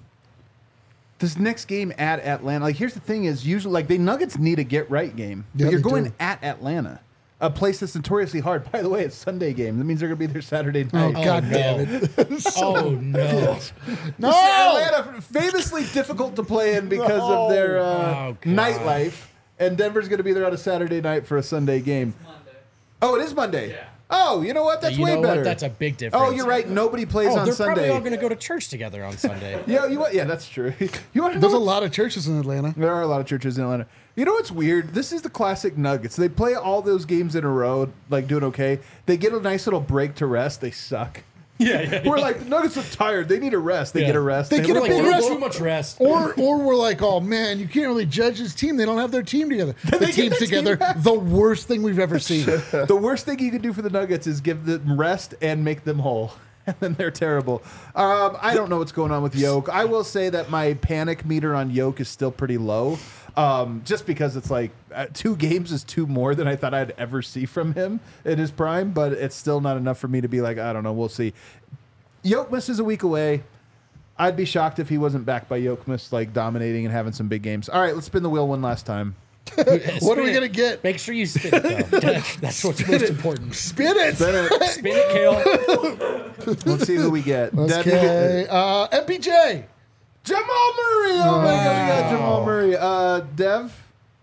this next game at Atlanta, like here's the thing: is usually like the Nuggets need a get right game. But Yeah, you're they going do. at Atlanta, a place that's notoriously hard. By the way, it's Sunday game. That means they're gonna be there Saturday Oh, night. God no. damn it. Oh no! No. Atlanta famously difficult to play in because of their uh, Oh, God. nightlife, and Denver's gonna be there on a Saturday night for a Sunday game. Oh, it is Monday. Yeah. Oh, you know what? That's you way know better. what? That's a big difference. Oh, you're right. Nobody plays Oh, on they're Sunday. probably all going to go to church together on Sunday. Yeah, you want? Yeah, that's true. You want to There's know? a lot of churches in Atlanta. There are a lot of churches in Atlanta. You know what's weird? This is the classic Nuggets. They play all those games in a row, like doing okay. They get a nice little break to rest. They suck. Yeah, yeah. We're like, the Nuggets are tired. They need a rest. They Yeah. get a rest. They get We're a like, big "We're rest." too much rest. Or, or we're like, oh man, you can't really judge this team. They don't have their team together. The They get team's their team together. back. The worst thing we've ever seen. The worst thing you can do for the Nuggets is give them rest and make them whole. And then they're terrible. Um, I don't know what's going on with Yoke. I will say that my panic meter on Yoke is still pretty low. Um, just because it's like uh, two games is two more than I thought I'd ever see from him in his prime, but it's still not enough for me to be like, I don't know, we'll see. Yokemus is a week away. I'd be shocked if he wasn't back by Yokemus, like dominating and having some big games. All right, let's spin the wheel one last time. What are Spin we it. gonna get? Make sure you spin it, though. That's what's most important. Spin it. Spin it. Spin it, Kale. Let's see who we get. Dev, you get- Okay. Uh, M P J. Jamal Murray. Oh my God, we got Jamal Murray. Uh, Dev.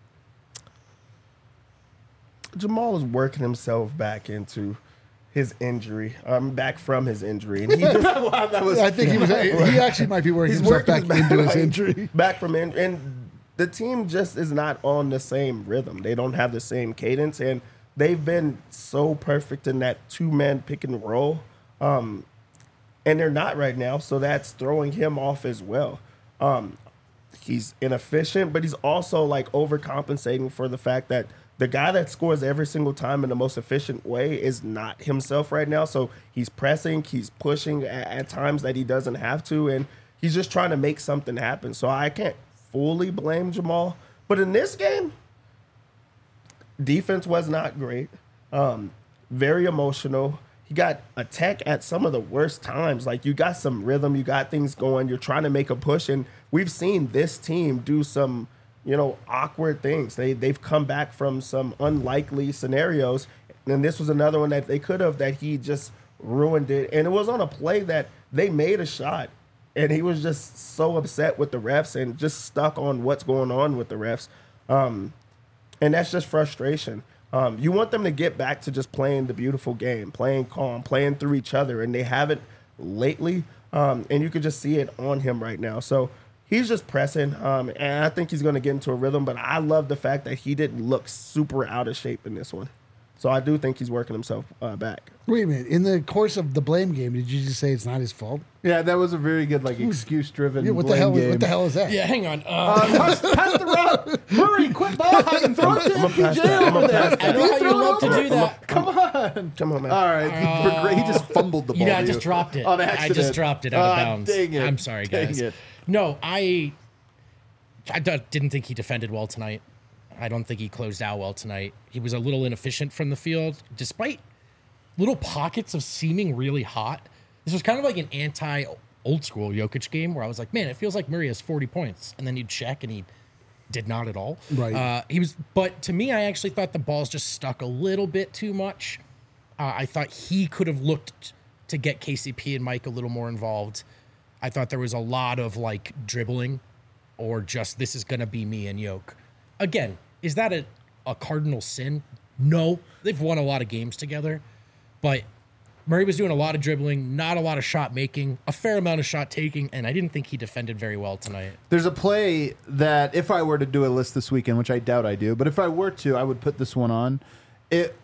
Jamal is working himself back into his injury. I'm um, back from his injury, and he just that was I think he was. He actually might be working He's himself working back his into his back- injury. back from in, and the team just is not on the same rhythm. They don't have the same cadence, and they've been so perfect in that two man pick and roll, um, and they're not right now. So that's throwing him off as well. Um, he's inefficient, but he's also like overcompensating for the fact that the guy that scores every single time in the most efficient way is not himself right now. So he's pressing, he's pushing at, at times that he doesn't have to, and he's just trying to make something happen. So I can't fully blame Jamal. But in this game, defense was not great. Um, very emotional. He got attacked at some of the worst times. Like you got some rhythm, you got things going, you're trying to make a push, and we've seen this team do some, you know, awkward things. They they've come back from some unlikely scenarios And this was another one that they could have, that he just ruined it. And it was on a play that they made a shot. And he was just so upset with the refs and just stuck on what's going on with the refs. Um, and that's just frustration. Um, you want them to get back to just playing the beautiful game, playing calm, playing through each other. And they haven't lately. Um, and you can just see it on him right now. So he's just pressing. Um, and I think he's going to get into a rhythm. But I love the fact that he didn't look super out of shape in this one. So I do think he's working himself uh, back. Wait a minute. In the course of the blame game, did you just say it's not his fault? Yeah, that was a very good, like, excuse-driven Yeah, what the blame hell? game. What the hell is that? Yeah, hang on. Uh, Uh, pass, pass the rock. Murray, quit ball hogging. Throw it to I'm M P gonna pass J that. I'm over gonna there. pass I know how Throw you it love to over. do that. Come on. Come on, man. All right. He, for great- he just fumbled the ball. You know, I to just dropped it. On I accident. just dropped it out of Ah, bounds. Dang it. I'm sorry, Dang guys. it. No, I, I d- didn't think he defended well tonight. I don't think he closed out well tonight. He was a little inefficient from the field, despite little pockets of seeming really hot. This was kind of like an anti-old school Jokic game where I was like, man, it feels like Murray has forty points. And then you'd check and he did not at all. Right. Uh, he was, but to me, I actually thought the balls just stuck a little bit too much. Uh, I thought he could have looked to get K C P and Mike a little more involved. I thought there was a lot of like dribbling or just this is going to be me and Yoke. Again, is that a, a cardinal sin? No. They've won a lot of games together. But Murray was doing a lot of dribbling, not a lot of shot making, a fair amount of shot taking, and I didn't think he defended very well tonight. There's a play that if I were to do a list this weekend, which I doubt I do, but if I were to, I would put this one on. It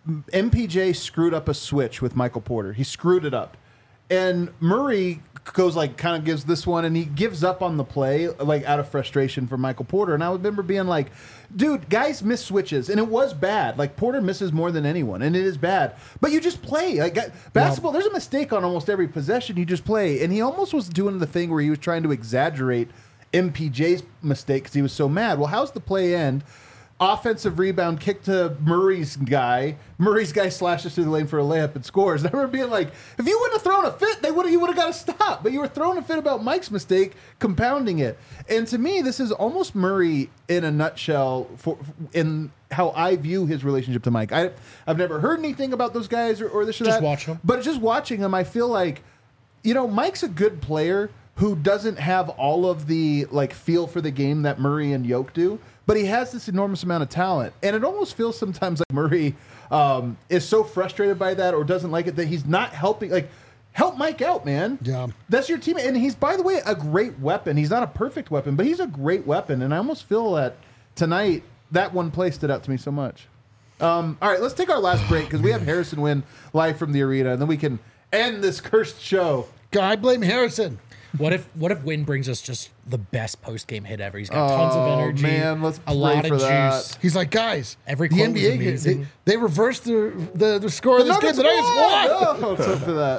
M P J screwed up a switch with Michael Porter. He screwed it up. And Murray goes like kind of gives this one and he gives up on the play like out of frustration for Michael Porter. And I remember being like, dude, guys miss switches and it was bad. Like Porter misses more than anyone and it is bad. But you just play. Like basketball, there's a mistake on almost every possession. You just play. And he almost was doing the thing where he was trying to exaggerate M P J's mistake because he was so mad. Well, how's the play end? Offensive rebound, kick to Murray's guy. Murray's guy slashes through the lane for a layup and scores. And I remember being like, if you wouldn't have thrown a fit, they would you would have got to stop. But you were throwing a fit about Mike's mistake, compounding it. And to me, this is almost Murray in a nutshell for in how I view his relationship to Mike. I, I've never heard anything about those guys or, or this or Just that. watching them. But just watching them, I feel like, you know, Mike's a good player who doesn't have all of the like feel for the game that Murray and Yoke do. But he has this enormous amount of talent. And it almost feels sometimes like Murray um, is so frustrated by that or doesn't like it that he's not helping. Like, help Mike out, man. Yeah. That's your teammate. And he's, by the way, a great weapon. He's not a perfect weapon, but he's a great weapon. And I almost feel that tonight, that one play stood out to me so much. Um, all right, let's take our last break because we have Harrison Wind live from the arena. And then we can end this cursed show. God, I blame Harrison. What if what if Wynn brings us just the best post game hit ever? He's got tons of Oh, energy, man, let's a pray lot for of that. juice. He's like, guys, Every the quote N B was A, they, amazing. they reversed the, the, the score of this game. The Nuggets won. Oh, let's hope for that.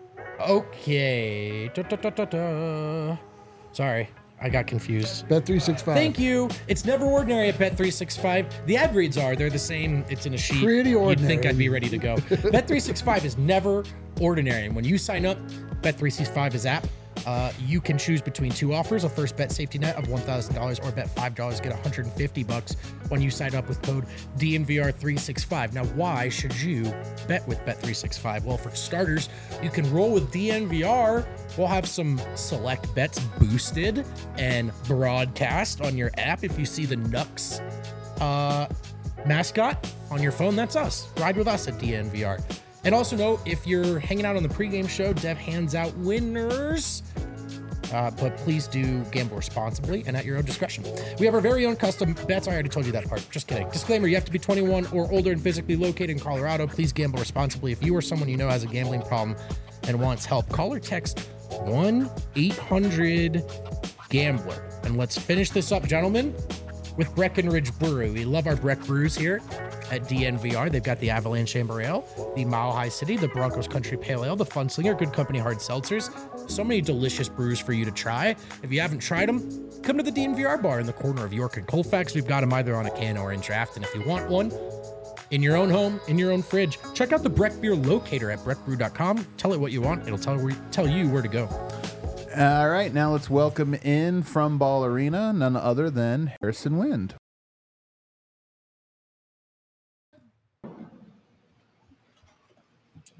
Okay. Da, da, da, da, da. Sorry, I got confused. Bet three sixty-five. Thank you. It's never ordinary at Bet three sixty-five. The ad reads are. They're the same. It's in a sheet. Pretty You'd think ordinary. I'd be ready to go. Bet three sixty-five is never ordinary. And when you sign up, Bet three sixty-five is app. Uh, you can choose between two offers: a first bet safety net of one thousand dollars, or bet five dollars get one hundred fifty bucks when you sign up with code D N V R three sixty-five. Now, why should you bet with Bet three sixty-five? Well, for starters, you can roll with D N V R. We'll have some select bets boosted and broadcast on your app. If you see the Nux uh, mascot on your phone, that's us. Ride with us at D N V R. And also know, if you're hanging out on the pregame show, Dev hands out winners. Uh, but please do gamble responsibly and at your own discretion. We have our very own custom bets. I already told you that part. Just kidding. Disclaimer, you have to be twenty-one or older and physically located in Colorado. Please gamble responsibly. If you or someone you know has a gambling problem and wants help, call or text one eight hundred gambler. And let's finish this up, gentlemen, with Breckenridge Brewery. We love our Breck brews here at D N V R. They've got the Avalanche Amber Ale, the Mile High City, the Broncos Country Pale Ale, the Funslinger, Good Company Hard Seltzers. So many delicious brews for you to try. If you haven't tried them, come to the D N V R bar in the corner of York and Colfax. We've got them either on a can or in draft. And if you want one in your own home, in your own fridge, check out the Breck Beer Locator at breck brew dot com. Tell it what you want. It'll tell, tell you where to go. All right, now let's welcome in from Ball Arena none other than Harrison Wind.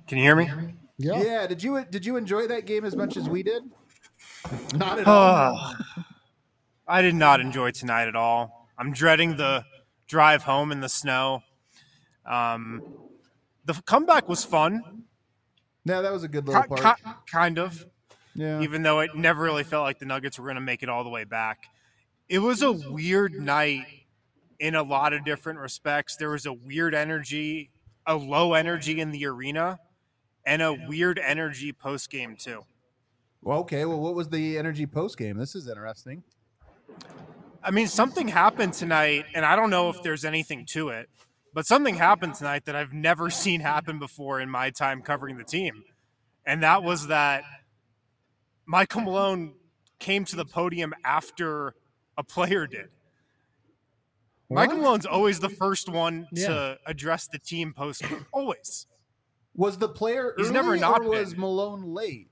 Can you hear me? Yeah. Yeah. Did you did you enjoy that game as much as we did? Not at all. I did not enjoy tonight at all. I'm dreading the drive home in the snow. Um, the comeback was fun, Yeah, that was a good little ki- part. ki- kind of, Yeah. even though it never really felt like the Nuggets were going to make it all the way back. It was a weird night in a lot of different respects. There was a weird energy, a low energy in the arena, and a weird energy post game too. Well, okay. Well, what was the energy post game? This is interesting. I mean, something happened tonight, and I don't know if there's anything to it, but something happened tonight that I've never seen happen before in my time covering the team. And that was that Michael Malone came to the podium after a player did. Michael What? Malone's always the first one Yeah. to address the team post. Always. Was the player He's early never not or was been. Malone late?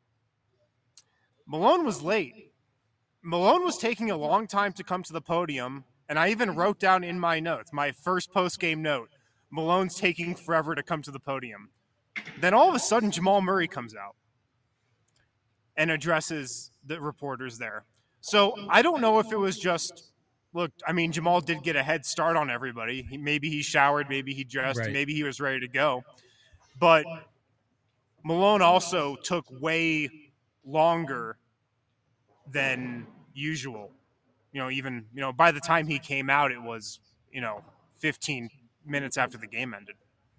Malone was late. Malone was taking a long time to come to the podium, and I even wrote down in my notes, my first post-game note, Malone's taking forever to come to the podium. Then all of a sudden, Jamal Murray comes out and addresses the reporters there. So I don't know if it was just, look, I mean, Jamal did get a head start on everybody. He, maybe he showered, maybe he dressed, Right. maybe he was ready to go. But Malone also took way longer than usual. You know, even, you know, by the time he came out, it was, you know, fifteen minutes after the game ended.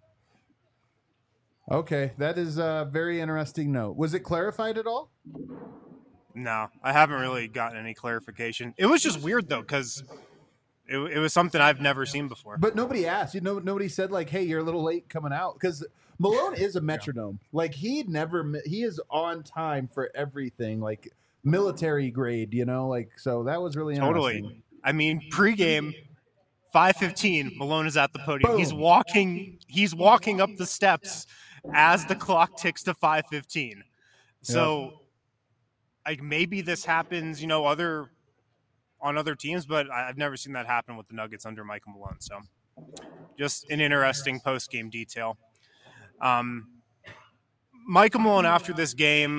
Okay, that is a very interesting note. Was it clarified at all? No, I haven't really gotten any clarification. It was just weird, though, because it, it was something I've never seen before. But nobody asked. You know, nobody said like, "Hey, you're a little late coming out," because Malone is a metronome. Like he never, mi- he is on time for everything, like military grade. You know, like so that was really interesting. Totally. I mean, pregame, five fifteen, Malone is at the podium. Boom. He's walking. He's walking up the steps as the clock ticks to five fifteen. So, like, maybe this happens, you know, other on other teams, but I- I've never seen that happen with the Nuggets under Michael Malone. So, just an interesting post game detail. Um, Michael Malone after this game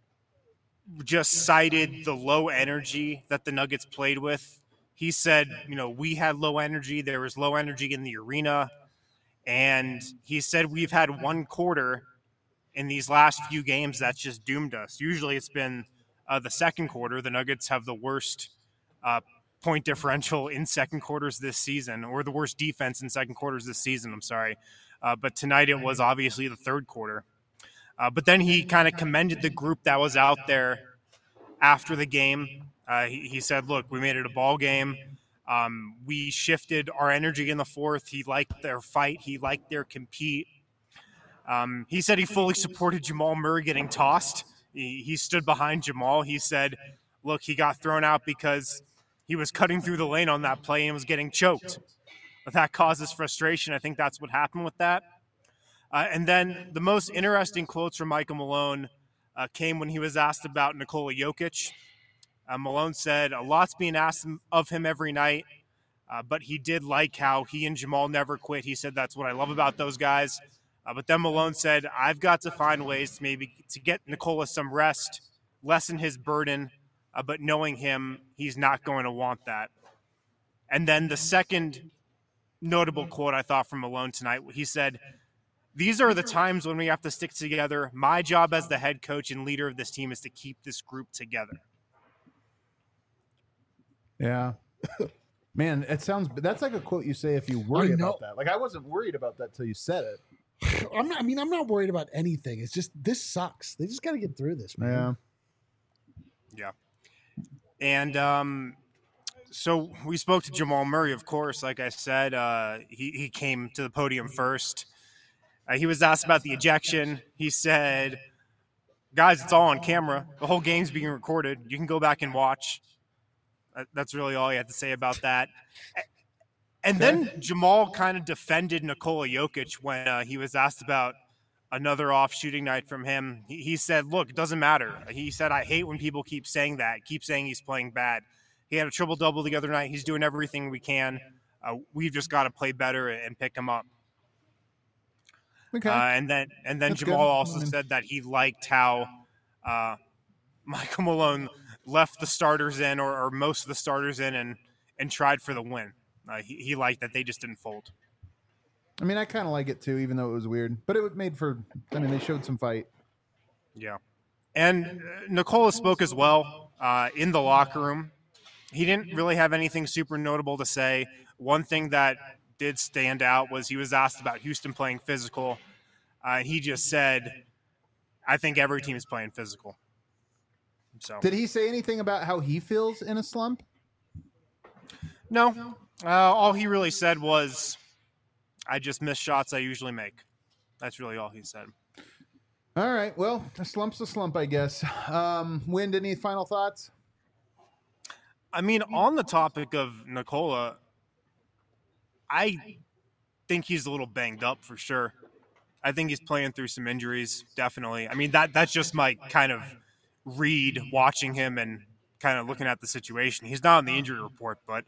just cited the low energy that the Nuggets played with. He said, you know, we had low energy. There was low energy in the arena. And he said we've had one quarter in these last few games that's just doomed us. Usually it's been uh, the second quarter. The Nuggets have the worst uh, point differential in second quarters this season, or the worst defense in second quarters this season, I'm sorry. Uh, but tonight it was obviously the third quarter. Uh, but then he kind of commended the group that was out there after the game. Uh, he, he said, look, we made it a ball game. Um, we shifted our energy in the fourth. He liked their fight. He liked their compete. Um, he said he fully supported Jamal Murray getting tossed. He, he stood behind Jamal. He said, look, he got thrown out because he was cutting through the lane on that play and was getting choked. But that causes frustration. I think that's what happened with that. Uh, and then the most interesting quotes from Michael Malone uh, came when he was asked about Nikola Jokic. Uh, Malone said, a lot's being asked of him every night, uh, but he did like how he and Jamal never quit. He said, that's what I love about those guys. Uh, but then Malone said, I've got to find ways to maybe to get Nikola some rest, lessen his burden, uh, but knowing him, he's not going to want that. And then the second notable quote I thought from Malone tonight, he said, these are the times when we have to stick together. My job as the head coach and leader of this team is to keep this group together. Yeah. Man, it sounds that's like a quote you say if you worry I know. about that. Like I wasn't worried about that till you said it. I'm not, I mean, I'm not worried about anything. It's just this sucks. They just got to get through this, man. Yeah. Yeah. And um, so we spoke to Jamal Murray, of course. Like I said, uh, he, he came to the podium first. Uh, he was asked about the ejection. He said, guys, it's all on camera. The whole game's being recorded. You can go back and watch. That, that's really all he had to say about that. And then Jamal kind of defended Nikola Jokic when uh, he was asked about another off shooting night from him. He, he said, look, it doesn't matter. He said, I hate when people keep saying that, keep saying he's playing bad. He had a triple-double the other night. He's doing everything we can. Uh, we've just got to play better and pick him up. Okay. Uh, and then and then That's Jamal good. also I mean- said that he liked how uh, Michael Malone left the starters in, or, or most of the starters in, and and tried for the win. Uh, he, he liked that they just didn't fold. I mean, I kind of like it too, even though it was weird. But it made for. I mean, they showed some fight. Yeah. And uh, Nikola spoke as well uh, in the locker room. He didn't really have anything super notable to say. One thing that did stand out was he was asked about Houston playing physical. Uh, he just said, I think every team is playing physical. So Did he say anything about how he feels in a slump? no, uh, all he really said was, I just miss shots I usually make. That's really all he said. All right. Well, a slump's a slump, I guess. Um, Wind, any final thoughts? I mean, on the topic of Nikola, I think he's a little banged up for sure. I think he's playing through some injuries, definitely. I mean, that that's just my kind of read watching him and kind of looking at the situation. He's not on the injury report, but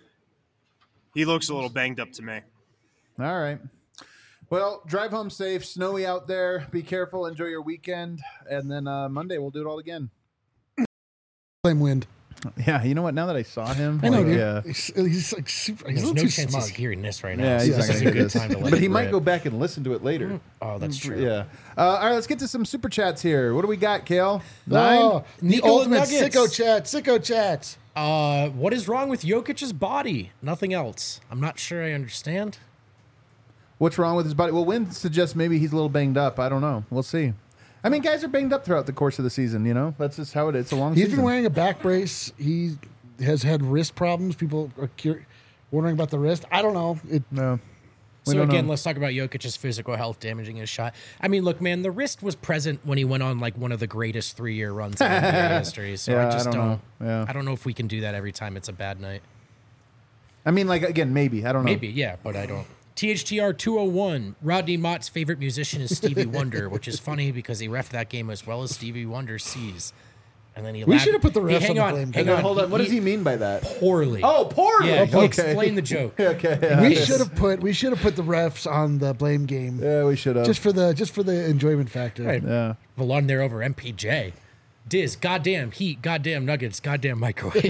he looks a little banged up to me. All right. Well, drive home safe. Snowy out there. Be careful. Enjoy your weekend. And then uh, Monday, we'll do it all again. Blame Wind. Yeah, you know what? Now that I saw him, I know, like, dude. yeah, He's, he's like super. He's There's a little no too chance smug. he's hearing this right now. yeah, so he's this not is gonna a hear good this. time to let But it he might rip. go back and listen to it later. Oh, that's true. Yeah. Uh, all right, let's get to some super chats here. What do we got, Kale? Nine. Oh, the Nikola ultimate Nuggets. sicko chat. Sicko chat. Uh, what is wrong with Jokic's body? Nothing else. I'm not sure I understand. What's wrong with his body? Well, Wind suggests maybe he's a little banged up. I don't know. We'll see. I mean, guys are banged up throughout the course of the season. You know, that's just how it is. It's a long He's season. been wearing a back brace. He has had wrist problems. People are cur- wondering about the wrist. I don't know. It, no. We So don't again, know. let's talk about Jokic's physical health damaging his shot. I mean, look, man, the wrist was present when he went on like one of the greatest three-year runs in N B A history. So Yeah, I just I don't don't. know. Yeah. I don't know if we can do that every time it's a bad night. I mean, like again, maybe. I don't know. Maybe, yeah, but I don't. T H T R two oh one. Rodney Mott's favorite musician is Stevie Wonder, which is funny because he reffed that game as well as Stevie Wonder sees. And then he We lab- should have put the Hey, refs hang on the on, blame hang game. on. Hold on. What does he mean by that? Poorly. Oh, poorly. yeah. He Okay. explained the joke. Okay. Yeah. we Yes. should have put we should have put the refs on the blame game Yeah, we should have. just for the just for the enjoyment factor. Right. yeah. Valon there over M P J. Diz, goddamn heat, goddamn nuggets, goddamn microwave.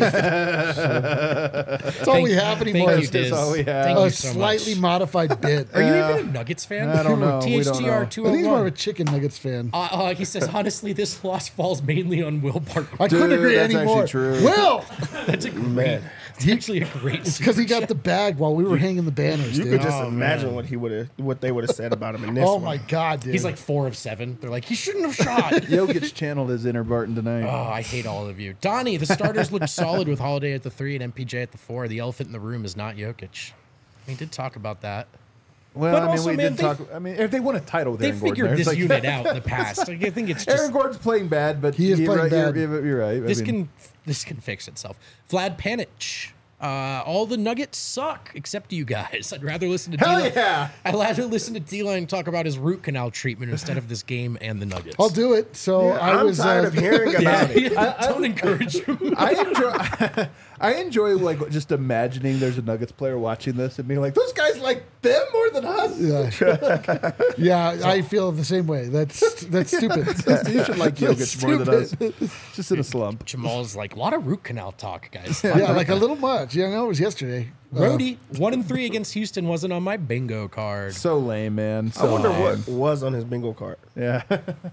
That's all we have anymore. Thank you, is Diz. That's all we have. Thank a you so slightly much. modified bit. Are you even a Nuggets fan? I don't know. We don't T H T R know. two I oh think he's more of a one. chicken nuggets fan. Uh, uh, he says, honestly, this loss falls mainly on Will Barton. I couldn't Dude, agree that's anymore. actually true. Will, That's a great, Man. it's actually a great because he got the bag while we were hanging the banners. You dude. could just Oh, imagine man. what he would have, what they would have said about him in this oh one. my god, dude. He's like four of seven. They're like, he shouldn't have shot. Jokic channeled his inner Barton tonight. Oh, I hate all of you. Donnie, the starters looked solid with Holiday at the three and M P J at the four. The elephant in the room is not Jokic. We did talk about that. well, but I mean, also, we man, did they- talk. I mean, if they won a title with They Aaron Gordon, figured there, this it's like- unit out in the past. Like, I think it's just Aaron Gordon's playing bad, but He is you're playing right, bad. You're, you're right. I this mean, can this can fix itself. Vlad Panich. Uh, all the Nuggets suck except you guys. I'd rather listen to Hell D-Line. yeah. I'd rather listen to D-Line talk about his root canal treatment instead of this game and the Nuggets. I'll do it. So I I'm was tired uh, of hearing about it. Don't encourage him. I enjoy. I enjoy like just imagining there's a Nuggets player watching this and being like, "Those guys like them more than us." Yeah, yeah I feel the same way. That's that's stupid. You should like Jokic more than us. Stupid. Just in a slump. Jamal's like, a lot of root canal talk, guys. Yeah, like a little much. Yeah, I know it was yesterday. Uh, Brody, one and three against Houston wasn't on my bingo card. So lame, man. I So wonder lame. what was on his bingo card. Yeah.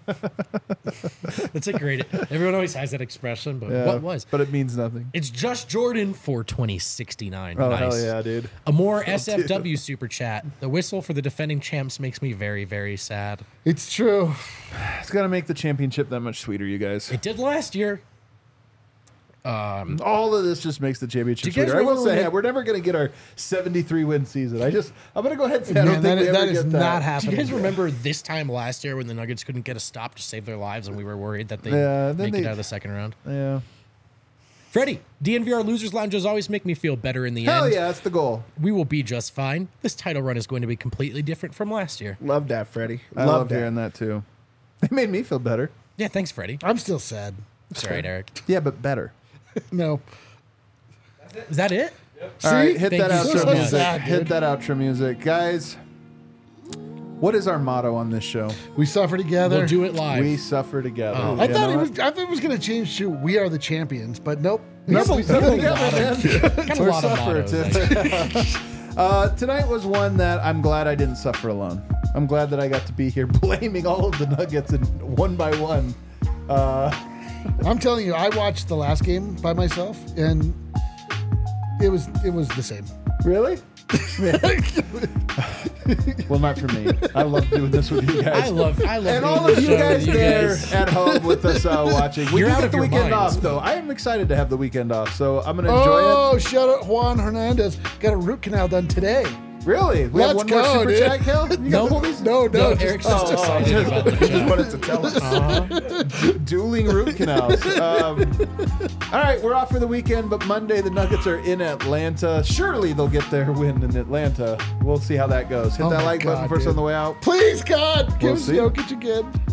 That's a great. Everyone always has that expression, but yeah. what was? But it means nothing. It's just Jordan for twenty sixty-nine. Oh nice. hell yeah, dude. A more S F W super chat. The whistle for the defending champs makes me very, very sad. It's true. It's gonna make the championship that much sweeter, you guys. It did last year. Um, All of this just makes the championship Do you guys sweeter. I will remember say, when yeah, they- we're never gonna get our seventy-three win season. I just, I'm gonna go ahead and say, I don't Man, think that, we that ever is get that. not do happening. you guys remember this time last year when the Nuggets couldn't get a stop to save their lives and we were worried that they'd Yeah, then make it they- out of the second round? Yeah. Freddie, D N V R Losers Lounges always make me feel better in the Hell end. yeah, that's the goal. We will be just fine. This title run is going to be completely different from last year. Love that, Freddie. I love, love that. hearing that too. It made me feel better. Yeah, thanks, Freddie. I'm still sad. It's all right, Eric. Yeah, but better. No. Is that it? All right, hit Thank that you outro so much. music. Sad, hit dude. that outro music, guys. What is our motto on this show? We suffer together. We'll do it live. We suffer together. Oh. I You thought know it what? was. I thought it was going to change to "We are the champions," but nope. Nope, we suffer together, man. Got a We're lot of suffer mottos. too. uh, tonight was one that I'm glad I didn't suffer alone. I'm glad that I got to be here blaming all of the Nuggets and one by one. Uh, I'm telling you, I watched the last game by myself, and it was it was the same. really? Well, not for me. I love doing this with you guys. I love, I love And doing all of this you show guys with you there guys. at home with us uh, watching. We You're do out get of the your weekend minds. off, though. I am excited to have the weekend off, so I'm going to enjoy Oh, shout out Juan Hernandez. Got a root canal done today. it. Really? We have Let's one more go, super dude. chat, Kel? You got No. movies? No, no, No, just- Eric's just oh, excited oh, about the Just chat. wanted to tell us. Uh-huh. Dueling root canals. Um, all right, we're off for the weekend, but Monday the Nuggets are in Atlanta. Surely they'll get their win in Atlanta. We'll see how that goes. Hit Oh that my like button God, first dude. on the way out. Please, God, give We'll us see. Jokic again.